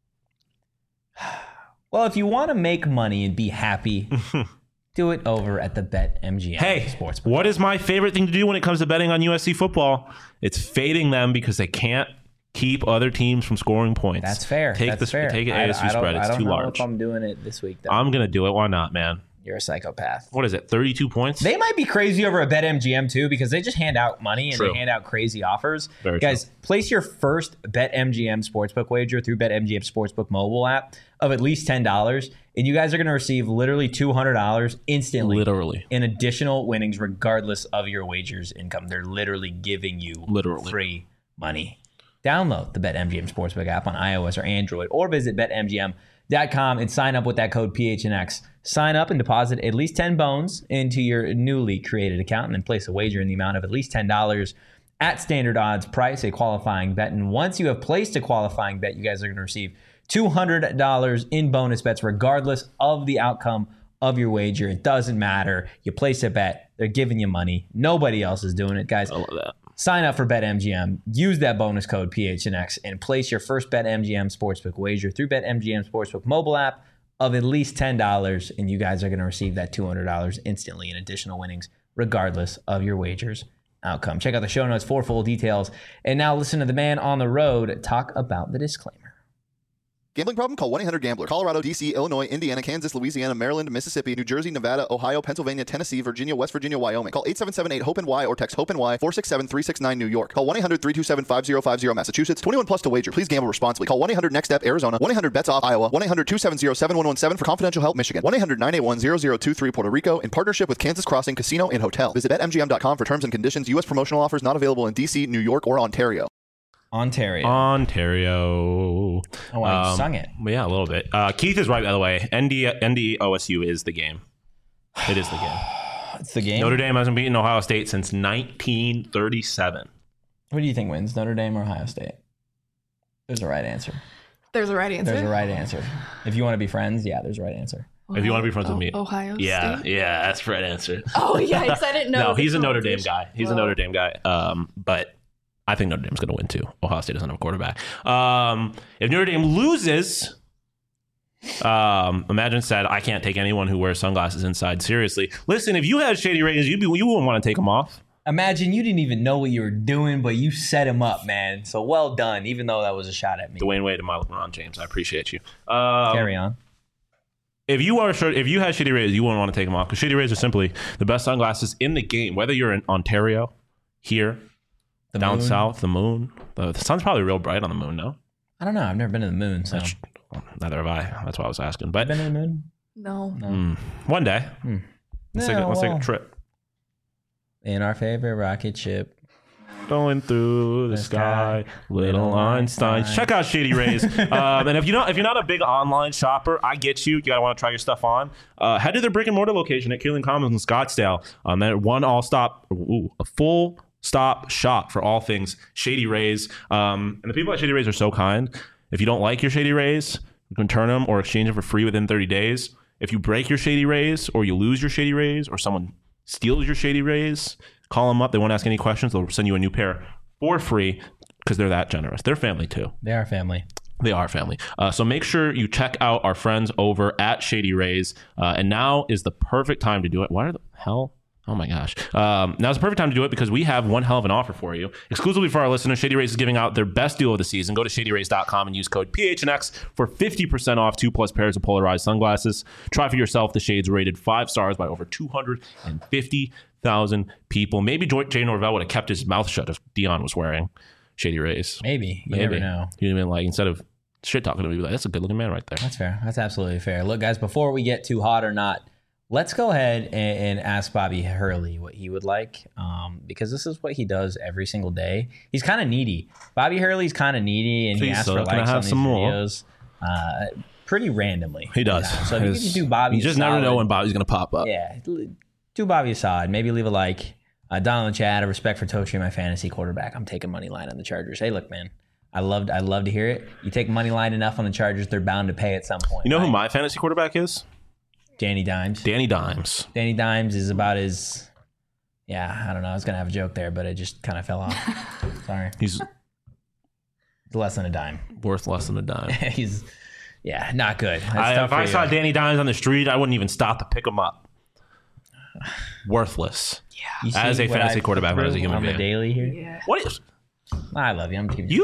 Well, if you want to make money and be happy, do it over at the BetMGM Sportsbook. What is my favorite thing to do when it comes to betting on USC football? It's fading them because they can't keep other teams from scoring points. That's fair. Take That's fair. Take an ASU spread. It's too large. I don't know if I'm doing it this week, though. I'm going to do it. Why not, man? You're a psychopath. What is it, 32 points? They might be crazy over a BetMGM, too, because they just hand out money and they hand out crazy offers. Very Guys, place your first BetMGM Sportsbook wager through BetMGM Sportsbook mobile app of at least $10, and you guys are going to receive literally $200 instantly. Literally. In additional winnings, regardless of your wager's income. They're literally giving you free money. Download the BetMGM Sportsbook app on iOS or Android, or visit BetMGM.com and sign up with that code PHNX. Sign up and deposit at least 10 bones into your newly created account and then place a wager in the amount of at least $10 at standard odds price, a qualifying bet. And once you have placed a qualifying bet, you guys are going to receive $200 in bonus bets regardless of the outcome of your wager. It doesn't matter. You place a bet, they're giving you money. Nobody else is doing it, guys. I love that. Sign up for BetMGM, use that bonus code PHNX, and place your first BetMGM Sportsbook wager through BetMGM Sportsbook mobile app of at least $10, and you guys are going to receive that $200 instantly in additional winnings, regardless of your wager's outcome. Check out the show notes for full details. And now listen to the man on the road talk about the disclaimer. Gambling problem? Call 1-800-GAMBLER. Colorado, D.C., Illinois, Indiana, Kansas, Louisiana, Maryland, Mississippi, New Jersey, Nevada, Ohio, Pennsylvania, Tennessee, Virginia, West Virginia, Wyoming. Call 877-8-HOPE-NY or text HOPE-NY 467-369 New York. Call 1-800-327-5050 Massachusetts. 21 plus to wager. Please gamble responsibly. Call 1-800-NEXT-STEP Arizona. 1-800-BETS-OFF Iowa. 1-800-270-7117 for confidential help Michigan. 1-800-981-0023 Puerto Rico in partnership with Kansas Crossing Casino and Hotel. Visit BetMGM.com for terms and conditions. U.S. promotional offers not available in D.C., New York, or Ontario. Ontario. Oh, I sung it. Yeah, a little bit. Keith is right, by the way. ND OSU is the game. It is the game. It's the game. Notre Dame hasn't beaten Ohio State since 1937. What do you think wins, Notre Dame or Ohio State? There's a right answer. There's a right answer. There's a right answer. If you want to be friends, yeah, there's a right answer. If you want to be friends with me. Ohio State? Yeah, that's the right answer. Oh, yeah, because I didn't know. No, he's a Notre Dame guy. He's a Notre Dame guy. But I think Notre Dame's going to win too. Ohio State doesn't have a quarterback. If Notre Dame loses, Imagine said, I can't take anyone who wears sunglasses inside seriously. Listen, if you had Shady Rays, you wouldn't want to take them off. Imagine you didn't even know what you were doing, but you set him up, man. So well done, even though that was a shot at me. Dwayne Wade and my LeBron James. I appreciate you. Carry on. If you had Shady Rays, you wouldn't want to take them off because Shady Rays are simply the best sunglasses in the game. Whether you're in Ontario, here, down south, the moon. The sun's probably real bright on the moon, no? I don't know. I've never been to the moon, so. Neither have I. That's why I was asking. But been to the moon? No. One day. Let's take a trip. In our favorite rocket ship. Going through the sky, little Einstein. Check out Shady Rays. And if you're not a big online shopper, I get you. You gotta want to try your stuff on. Head to their brick and mortar location at Kierland Commons in Scottsdale. A full stop shop for all things Shady Rays. And the people at Shady Rays are so kind. If you don't like your Shady Rays, you can return them or exchange them for free within 30 days. If you break your Shady Rays or you lose your Shady Rays or someone steals your Shady Rays, call them up. They won't ask any questions. They'll send you a new pair for free because they're that generous. They're family too. They are family. They are family. So make sure you check out our friends over at Shady Rays. And now is the perfect time to do it. Why the hell? Oh my gosh. Now's the perfect time to do it because we have one hell of an offer for you. Exclusively for our listeners, Shady Rays is giving out their best deal of the season. Go to shadyrays.com and use code PHNX for 50% off 2+ pairs of polarized sunglasses. Try for yourself. The shades rated 5 stars by over 250,000 people. Maybe Jay Norvell would have kept his mouth shut if Dion was wearing Shady Rays. Maybe. You never know. You'd have been like, instead of shit talking to me, like, that's a good looking man right there. That's fair. That's absolutely fair. Look, guys, before we get too hot or not, let's go ahead and ask Bobby Hurley what he would like, because this is what he does every single day. He's kind of needy. Bobby Hurley's kind of needy, and he asks for likes on these videos. pretty randomly. He does. So if you can do Bobby, you just never know when Bobby's going to pop up. Yeah, do Bobby a solid. Maybe leave a like. Donald and Chad, a respect for Totri, my fantasy quarterback. I'm taking money line on the Chargers. Hey, look, man, I love to hear it. You take money line enough on the Chargers, they're bound to pay at some point. You know right? who my fantasy quarterback is? Danny Dimes. Danny Dimes. Danny Dimes is about as, I don't know. I was going to have a joke there, but it just kind of fell off. Sorry. He's less than a dime. worth less than a dime. He's, not good. If I saw Danny Dimes on the street, I wouldn't even stop to pick him up. Worthless. You As see a what fantasy I quarterback, put not as a human on being. the daily here. Yeah. What is... I love you. I'm keeping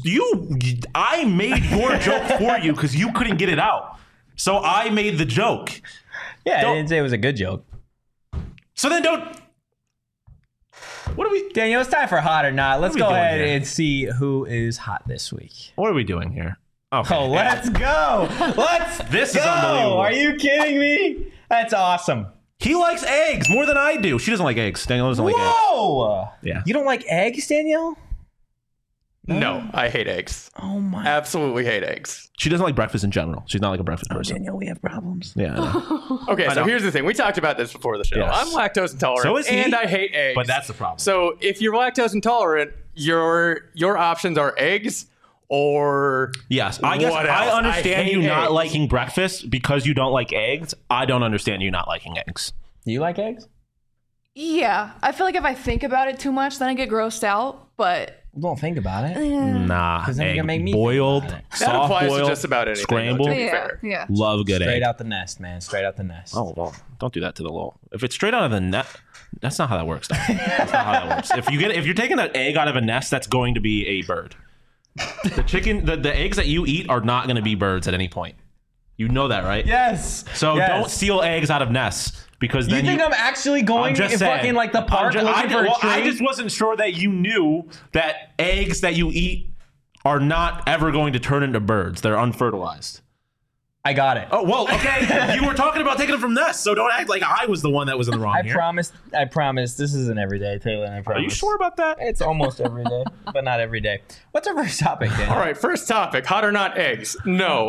I made your joke for you because you couldn't get it out. So I made the joke. Yeah, Don't- I didn't say it was a good joke. So then don't... What are we... Daniel, it's time for hot or not. Let's we go doing ahead here? and see who is hot this week. What are we doing here? Okay. Oh, let's go. Let's This is go. unbelievable. Are you kidding me? That's awesome. He likes eggs more than I do. She doesn't like eggs. Danielle doesn't like eggs. Whoa. Yeah. You don't like eggs, Danielle? No, I hate eggs. Oh, my. Absolutely hate eggs. She doesn't like breakfast in general. She's not like a breakfast person. Danielle, we have problems. Yeah, I know. Okay, so know. here's the thing. We talked about this before the show. Yes. I'm lactose intolerant, So is he. and I hate eggs. But that's the problem. So if you're lactose intolerant, your options are eggs or Yes, I guess What I else? understand I hate you not eggs. liking breakfast because you don't like eggs. I don't understand you not liking eggs. Do you like eggs? Yeah, I feel like if I think about it too much, then I get grossed out. But Don't think about it. Nah, 'Cause then you're egg gonna make me boiled, think about that soft applies boiled, to just about anything. scrambled. Though, to be yeah, fair. yeah. Love good Straight egg. out the nest, man. Straight out the nest. Oh well, don't do that to the lol. If it's straight out of the net, that's not how that works. That's not how that works. If you're taking an egg out of a nest, that's going to be a bird. The chicken, the eggs that you eat are not going to be birds at any point. You know that, right? Yes. So Yes. don't steal eggs out of nests because You then think I'm actually going I'm just in saying. fucking like the park looking for a tree? I just wasn't sure that you knew that eggs that you eat are not ever going to turn into birds. They're unfertilized. I got it. Oh, well, okay. You were talking about taking them from nests, so don't act like I was the one that was in the wrong I here. promise. This isn't every day, Taylor. I promise. Are you sure about that? It's almost every day, but not every day. What's our first topic, Daniel? All right, first topic: hot or not eggs? No.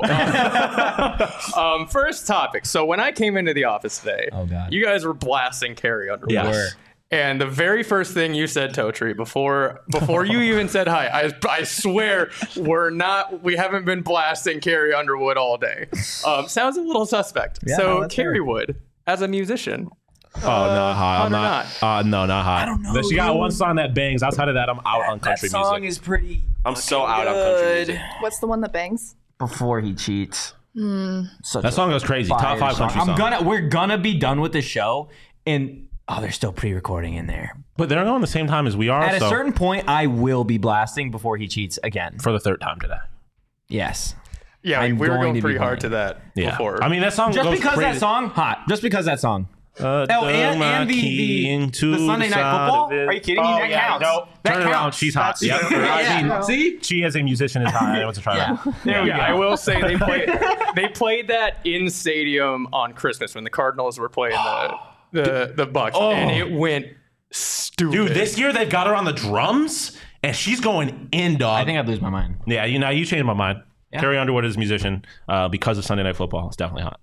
First topic. So when I came into the office today, Oh, God. you guys were blasting Carrie Underwood. Yes. Were. And the very first thing you said, Totri, before you even said hi, I swear we haven't been blasting Carrie Underwood all day. Sounds a little suspect. Yeah, so no, that's Carrie fair. Wood, as a musician, Oh, not hot. I'm or not. No, not hot. I don't know. She got one song that bangs. Outside of that, I'm out on country music. is pretty. I'm so out on country music. What's the one that bangs? Before he cheats. That song goes crazy. Top 5 country song. We're gonna be done with the show, and they're still pre-recording in there. But they're on the same time as we are. At a so certain point, I will be blasting before he cheats again. for the third time today. Yes. yeah, I'm we were going to going be pretty hard playing. to that Yeah. before. I mean, that song Just goes because crazy. that song, hot. Just because that song. And the Sunday Night Football? Are you kidding me? That counts. No, That turn around. counts. She's hot. That's Yep. true. I mean, Yeah. See? she as a musician is hot. I want to try that. There we go. I will say they played that in stadium on Christmas when the Cardinals were playing the Bucks, and it went stupid. Dude, this year they've got her on the drums, and she's going in, dog. I think I'd lose my mind. Yeah, you changed my mind. Carrie Underwood is a musician because of Sunday Night Football. It's definitely hot.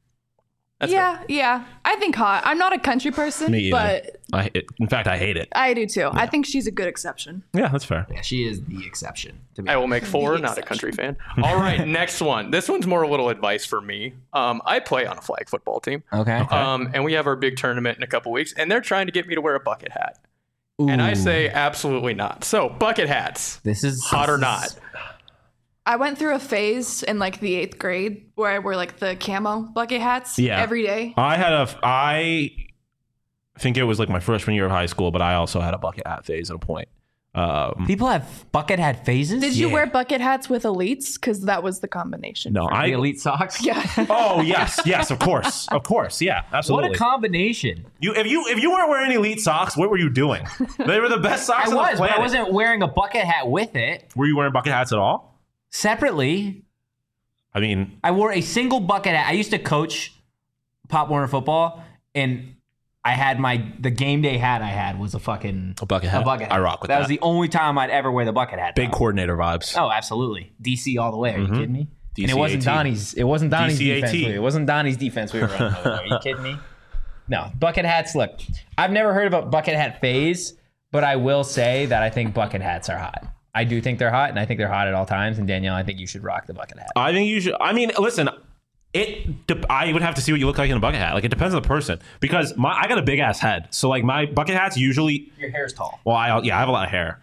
Yeah. I think hot. I'm not a country person, Me either. but In fact, I hate it. I do too. I think she's a good exception. Yeah, that's fair. Yeah, she is the exception. To be I will make 4, The not a exception. country fan. All right, next one. This one's more a little advice for me. I play on a flag football team. Okay. And we have our big tournament in a couple weeks, and they're trying to get me to wear a bucket hat. And I say absolutely not. So, bucket hats, This is hot or not? I went through a phase in like the 8th grade where I wore like the camo bucket hats Yeah. every day. I think it was like my freshman year of high school, but I also had a bucket hat phase at a point. People have bucket hat phases. Did you wear bucket hats with elites? Because that was the combination. No, the elite socks? Yeah. Oh yes, of course, yeah, What absolutely. a combination! If you weren't wearing elite socks, what were you doing? They were the best socks I on was, the but planet. I wasn't wearing a bucket hat with it. Were you wearing bucket hats at all? Separately, I mean, I wore a single bucket hat. I used to coach Pop Warner football, and I had the game day hat I had was a bucket hat. A bucket hat. I rock with That that. was the only time I'd ever wear the bucket hat. Big though. coordinator vibes. Oh, absolutely. DC all the way. Are you kidding me? And it wasn't Donnie's. It wasn't Donnie's DCAT. defense. It wasn't Donnie's defense we were running over there. Are you kidding me? No, bucket hats. Look, I've never heard of a bucket hat phase, but I will say that I think bucket hats are hot. I do think they're hot, and I think they're hot at all times. And Danielle, I think you should rock the bucket hat. I think you should. I mean, listen. I would have to see what you look like in a bucket hat. Like, it depends on the person, because I got a big ass head, so like my bucket hats usually. Your hair's tall. Well, I have a lot of hair.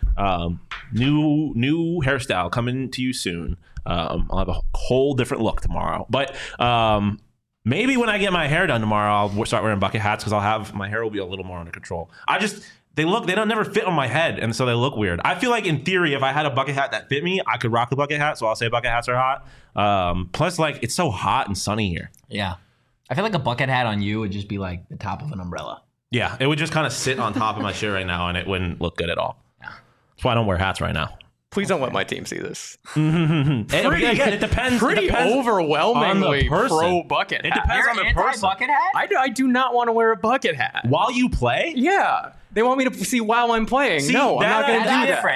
New hairstyle coming to you soon. I'll have a whole different look tomorrow, but maybe when I get my hair done tomorrow, I'll start wearing bucket hats because my hair will be a little more under control. They don't never fit on my head, and so they look weird. I feel like in theory, if I had a bucket hat that fit me, I could rock the bucket hat. So I'll say bucket hats are hot. Plus, like, it's so hot and sunny here. Yeah, I feel like a bucket hat on you would just be like the top of an umbrella. Yeah, it would just kind of sit on top of my shit right now, and it wouldn't look good at all. Yeah. That's why I don't wear hats right now. Please don't let my team see this. Again, it depends. Pretty overwhelmingly on the person. pro bucket hat. It depends on the person. Bucket hat? I do not want to wear a bucket hat. While you play? Yeah. They want me to see while I'm playing. See, no, I'm not going to do that. Different.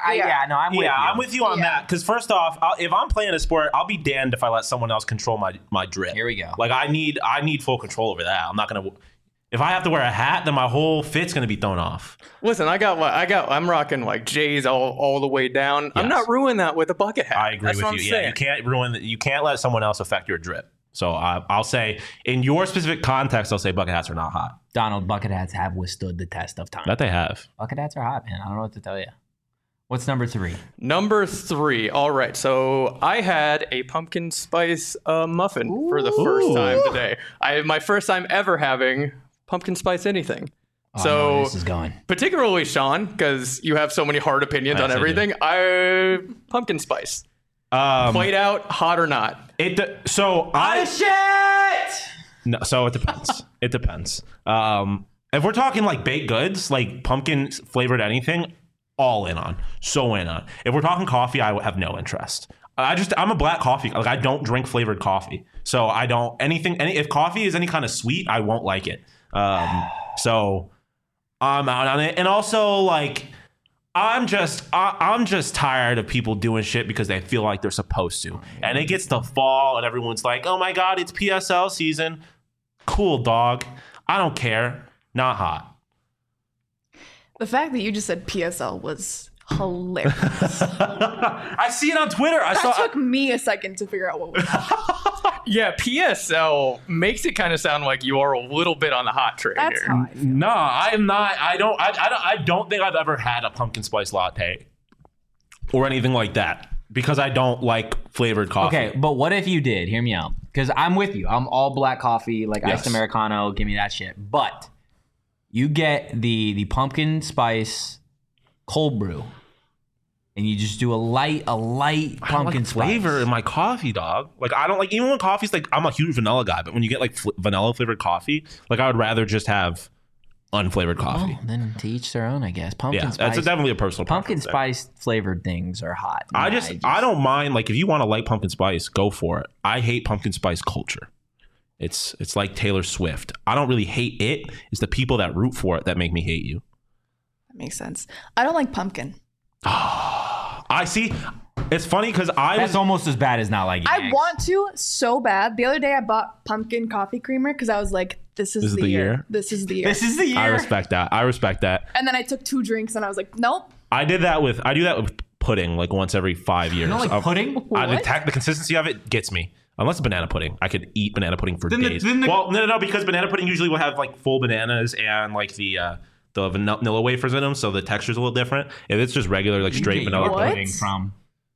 I'm with you on that. Because first off, if I'm playing a sport, I'll be damned if I let someone else control my drip. Here we go. Like, I need full control over that. I'm not going to. If I have to wear a hat, then my whole fit's going to be thrown off. Listen, I'm rocking like J's all the way down. Yes. I'm not ruining that with a bucket hat. I agree with you. Yeah, you can't let someone else affect your drip. So I'll say, in your specific context, I'll say bucket hats are not hot. Donald, bucket hats have withstood the test of time. That they have. Bucket hats are hot, man. I don't know what to tell you. What's number 3? Number 3. All right. So I had a pumpkin spice muffin for the first time today. My first time ever having pumpkin spice anything. Oh, so I know where this is going. Particularly Sean, because you have so many hard opinions on everything. Pumpkin spice. Played out, hot or not? Shit! No, so it depends. It depends. If we're talking like baked goods, like pumpkin flavored anything, all in on. So in on. If we're talking coffee, I have no interest. I'm a black coffee. Like, I don't drink flavored coffee. So I don't if coffee is any kind of sweet, I won't like it. So I'm out on it. And also, like, I'm just tired of people doing shit because they feel like they're supposed to. And it gets to fall and everyone's like, oh my God, it's PSL season. Cool, dog. I don't care. Not hot. The fact that you just said PSL was hilarious. I see it on Twitter. That took me a second to figure out what was happening. Yeah, PSL makes it kind of sound like you are a little bit on the hot train That's here. how I feel. No, I am not. I don't think I've ever had a pumpkin spice latte or anything like that because I don't like flavored coffee. Okay, but what if you did? Hear me out. Because I'm with you. I'm all black coffee, like iced Americano. Give me that shit. But you get the pumpkin spice cold brew, and you just do a light pumpkin spice flavor in my coffee, dog. Like, I don't like, even when coffee's like, I'm a huge vanilla guy, but when you get like vanilla flavored coffee, like, I would rather just have unflavored coffee. Oh, then to each their own, I guess. Pumpkin spice. That's definitely a personal Pumpkin preference spice flavored things are hot. I don't mind. Like, if you want to like pumpkin spice, go for it. I hate pumpkin spice culture. It's like Taylor Swift. I don't really hate it. It's the people that root for it that make me hate you. That makes sense. I don't like pumpkin. I see. It's funny because That's almost as bad as not liking I eggs. want to so bad. The other day I bought pumpkin coffee creamer because I was like, this is the year. This is the year. This is the year. I respect that. And then I took 2 drinks and I was like, nope. I do that with pudding like once every 5 years. You don't like pudding? The consistency of it gets me. Unless it's banana pudding. I could eat banana pudding for days. No, because banana pudding usually will have like full bananas and like the vanilla wafers in them, so the texture's a little different. If it's just regular like straight vanilla pudding from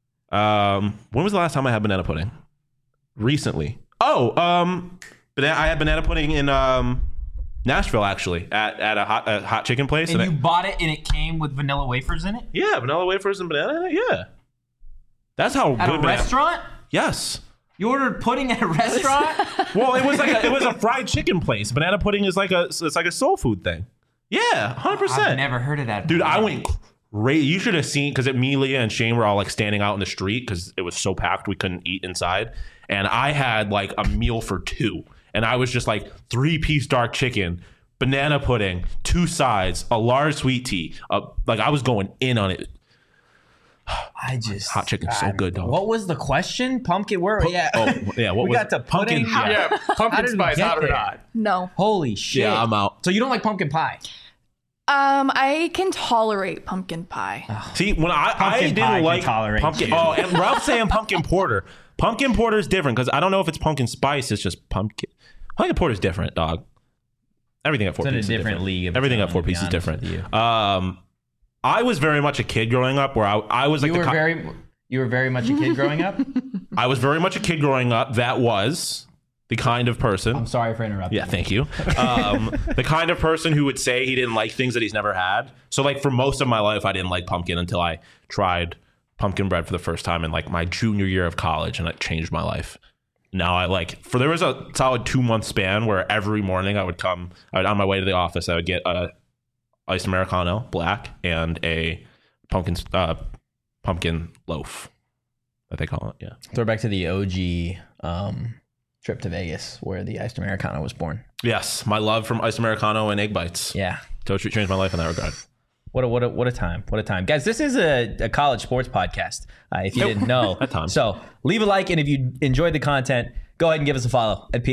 when was the last time I had banana pudding? Recently. I had banana pudding in Nashville, actually, at a hot chicken place. And you bought it and it came with vanilla wafers in it? Yeah, vanilla wafers and banana in it. Yeah. That's how at good a restaurant? Yes. You ordered pudding at a restaurant? Well, it was a fried chicken place. Banana pudding is like a soul food thing. Yeah, 100%. I've never heard of that. Dude, I went crazy. You should have seen, because me, Leah, and Shane were all like standing out in the street because it was so packed we couldn't eat inside. And I had like a meal for 2. And I was just like 3-piece dark chicken, banana pudding, 2 sides, a large sweet tea. Like, I was going in on it. Hot chicken's so good, dog. What was the question? Pumpkin? What What we was got to pudding. Yeah, How pumpkin did we spice, get hot or there? not? No. Holy shit! Yeah, I'm out. So you don't like pumpkin pie? I can tolerate pumpkin pie. See, when I Pumpkin pie didn't can like tolerate pumpkin. you. Oh, and Ralph's saying pumpkin porter. Pumpkin porter is different because I don't know if it's pumpkin spice. It's just pumpkin. Pumpkin porter is different, dog. Everything at 4 It's in a Pieces is different different. league of its Everything own, at 4 to be Pieces is honest different. with you. I was very much a kid growing up, where I was like You were very much a kid growing up. I was very much a kid growing up that was the kind of person. I'm sorry for interrupting. Yeah, thank you. The kind of person who would say he didn't like things that he's never had. So like for most of my life, I didn't like pumpkin until I tried pumpkin bread for the first time in like my junior year of college, and it changed my life. Now I like there was a solid 2-month span where every morning I would on my way to the office, I would get a iced Americano black and a pumpkin loaf that they call it. Yeah. Throwback to the OG trip to Vegas where the iced Americano was born. Yes, my love from iced Americano and egg bites. Yeah. Totally changed my life in that regard. What a time. What a time. Guys, this is a college sports podcast, if you didn't know. At times. So leave a like, and if you enjoyed the content, go ahead and give us a follow at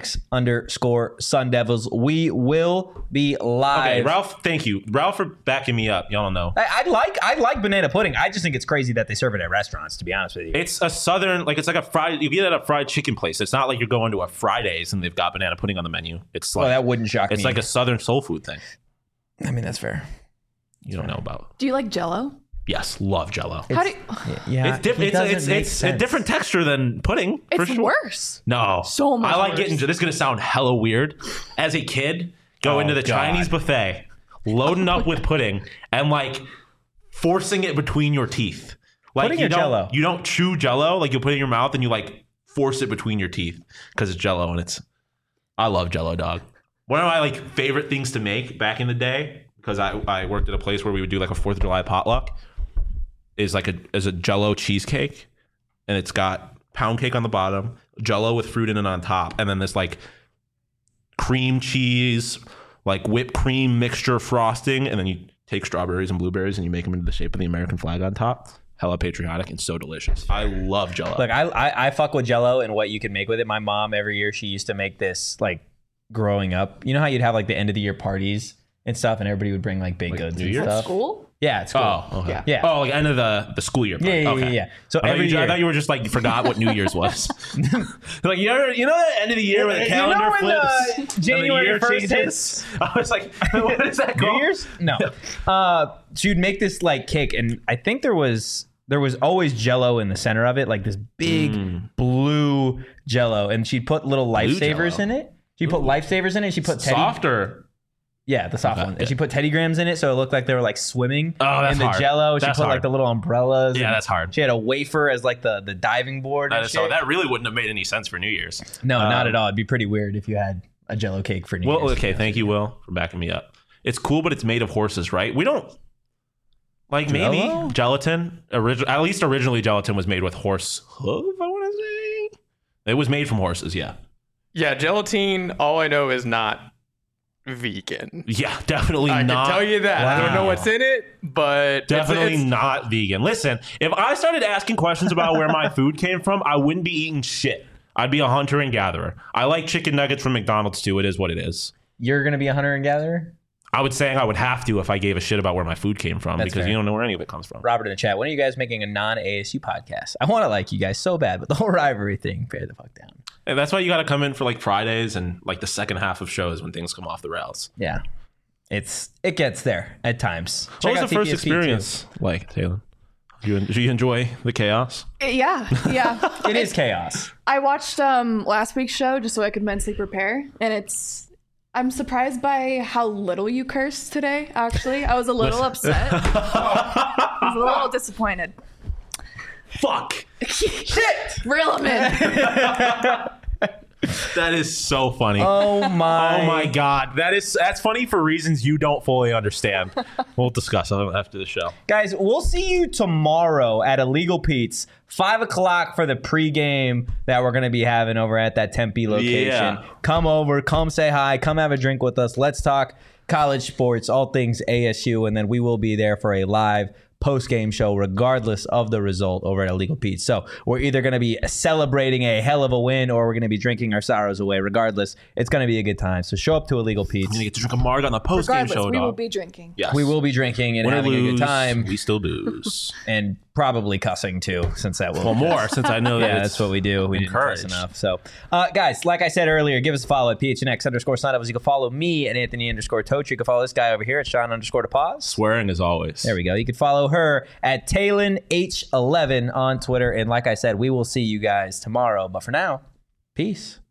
PHNX_Sun Devils. We will be live. Okay, Ralph, thank you. Ralph for backing me up. Y'all don't know. I like banana pudding. I just think it's crazy that they serve it at restaurants, to be honest with you. It's a southern, like it's like a fried, you get it at a fried chicken place. It's not like you're going to a Fridays and they've got banana pudding on the menu. It's like, that wouldn't shock me. it's like a southern soul food thing. I mean, that's fair. You don't know about. Do you like Jell-O? Yes, love Jell-O. How do you, Yeah, It's different. It's a different texture than pudding. For it's sure. worse. No, So much I like worse. getting. This is gonna sound hella weird. As a kid, go into the God. Chinese buffet, loading up with pudding, and like forcing it between your teeth. Like Pudding you or don't, Jell-O? you don't chew Jell-O. Like you put it in your mouth and you like force it between your teeth because it's Jell-O and it's. I love Jell-O, dog. One of my like favorite things to make back in the day, because I worked at a place where we would do like a 4th of July potluck, is like a Jell-O cheesecake, and it's got pound cake on the bottom, Jell-O with fruit in it on top, and then this like cream cheese, like whipped cream mixture frosting, and then you take strawberries and blueberries and you make them into the shape of the American flag on top. Hella patriotic and so delicious. I love Jell-O. Look, I fuck with Jell-O and what you can make with it. My mom, every year, she used to make this, like, growing up. You know how you'd have, like, the end of the year parties and stuff, and everybody would bring, like, baked goods New and Year's? stuff? School? Yeah, it's cool. Oh, okay. Yeah. Yeah. Oh, like end of the school year. Yeah, part. Okay. So I every year. thought you were just like you forgot what New Year's was. Like you know the end of the year when the calendar flips, and the January year 1st changes? hits? I was like, what is that called? New Year's? No. So you'd make this like cake, and I think there was always Jell-O in the center of it, like this big blue Jell-O, and she'd put little lifesavers Jell-O. in it. She put lifesavers in it. She put Softer. Yeah, the soft Okay, one. good. And she put Teddy Grahams in it, so it looked like they were like swimming Oh, that's in the hard. Jell-O. She That's put like hard. the little umbrellas. Yeah, and that's hard. She had a wafer as like the diving board. That and is so. shit. That really wouldn't have made any sense for New Year's. No, not at all. It'd be pretty weird if you had a Jell-O cake for New Well, Year's. okay, thank you, Will, for backing me up. It's cool, but it's made of horses, right? We don't like maybe Jell-O? gelatin. At least originally, gelatin was made with horse hoof. I want to say it was made from horses. Yeah, Yeah, gelatine, all I know is not vegan. yeah, definitely I not. can tell you that. I don't know Wow. what's in it, but Definitely it's, not vegan. Listen, if I started asking questions about where my food came from, I wouldn't be eating shit. I'd be a hunter and gatherer. I like chicken nuggets from McDonald's too. It is what it is. You're gonna be a hunter and gatherer? I would say I would have to if I gave a shit about where my food came from That's because fair. you don't know where any of it comes from. Robert in the chat, when are you guys making a non-ASU podcast? I want to like you guys so bad, but the whole rivalry thing, pare the fuck down. And that's why you got to come in for like Fridays and like the second half of shows when things come off the rails. Yeah. It gets there at times. What Check was out the first TPSP experience like, Taylor? Did you enjoy the chaos? Yeah. too. It is chaos. I watched last week's show just so I could mentally prepare, and I'm surprised by how little you cursed today, actually. I was a little upset. I was a little disappointed. Fuck. Shit! Reel him in. That is so funny. Oh my. Oh my god, that's funny for reasons you don't fully understand. We'll discuss after the show. Guys, we'll see you tomorrow at Illegal Pete's, 5 o'clock for the pregame that we're going to be having over at that Tempe location. Yeah. Come over, come say hi, come have a drink with us. Let's talk college sports, all things ASU, and then we will be there for a live post-game show regardless of the result over at Illegal Pete's. So we're either going to be celebrating a hell of a win or we're going to be drinking our sorrows away. Regardless, it's going to be a good time. So show up to Illegal Pete's. You're going to get to drink a marg on the post-game show, we will dog. be drinking. Yes. We will be drinking and Win or having a lose, good time. we still booze. And probably cussing too, since that will Well, more, since I know that yeah, it's that's what we do. We didn't cuss encouraged. enough. So, guys, like I said earlier, give us a follow at PHNX_signups. You can follow me at Anthony_Toach. You can follow this guy over here at Sean_DePaz. Swearing as always. There we go. You can follow her at TaylorH11 on Twitter. And like I said, we will see you guys tomorrow. But for now, peace.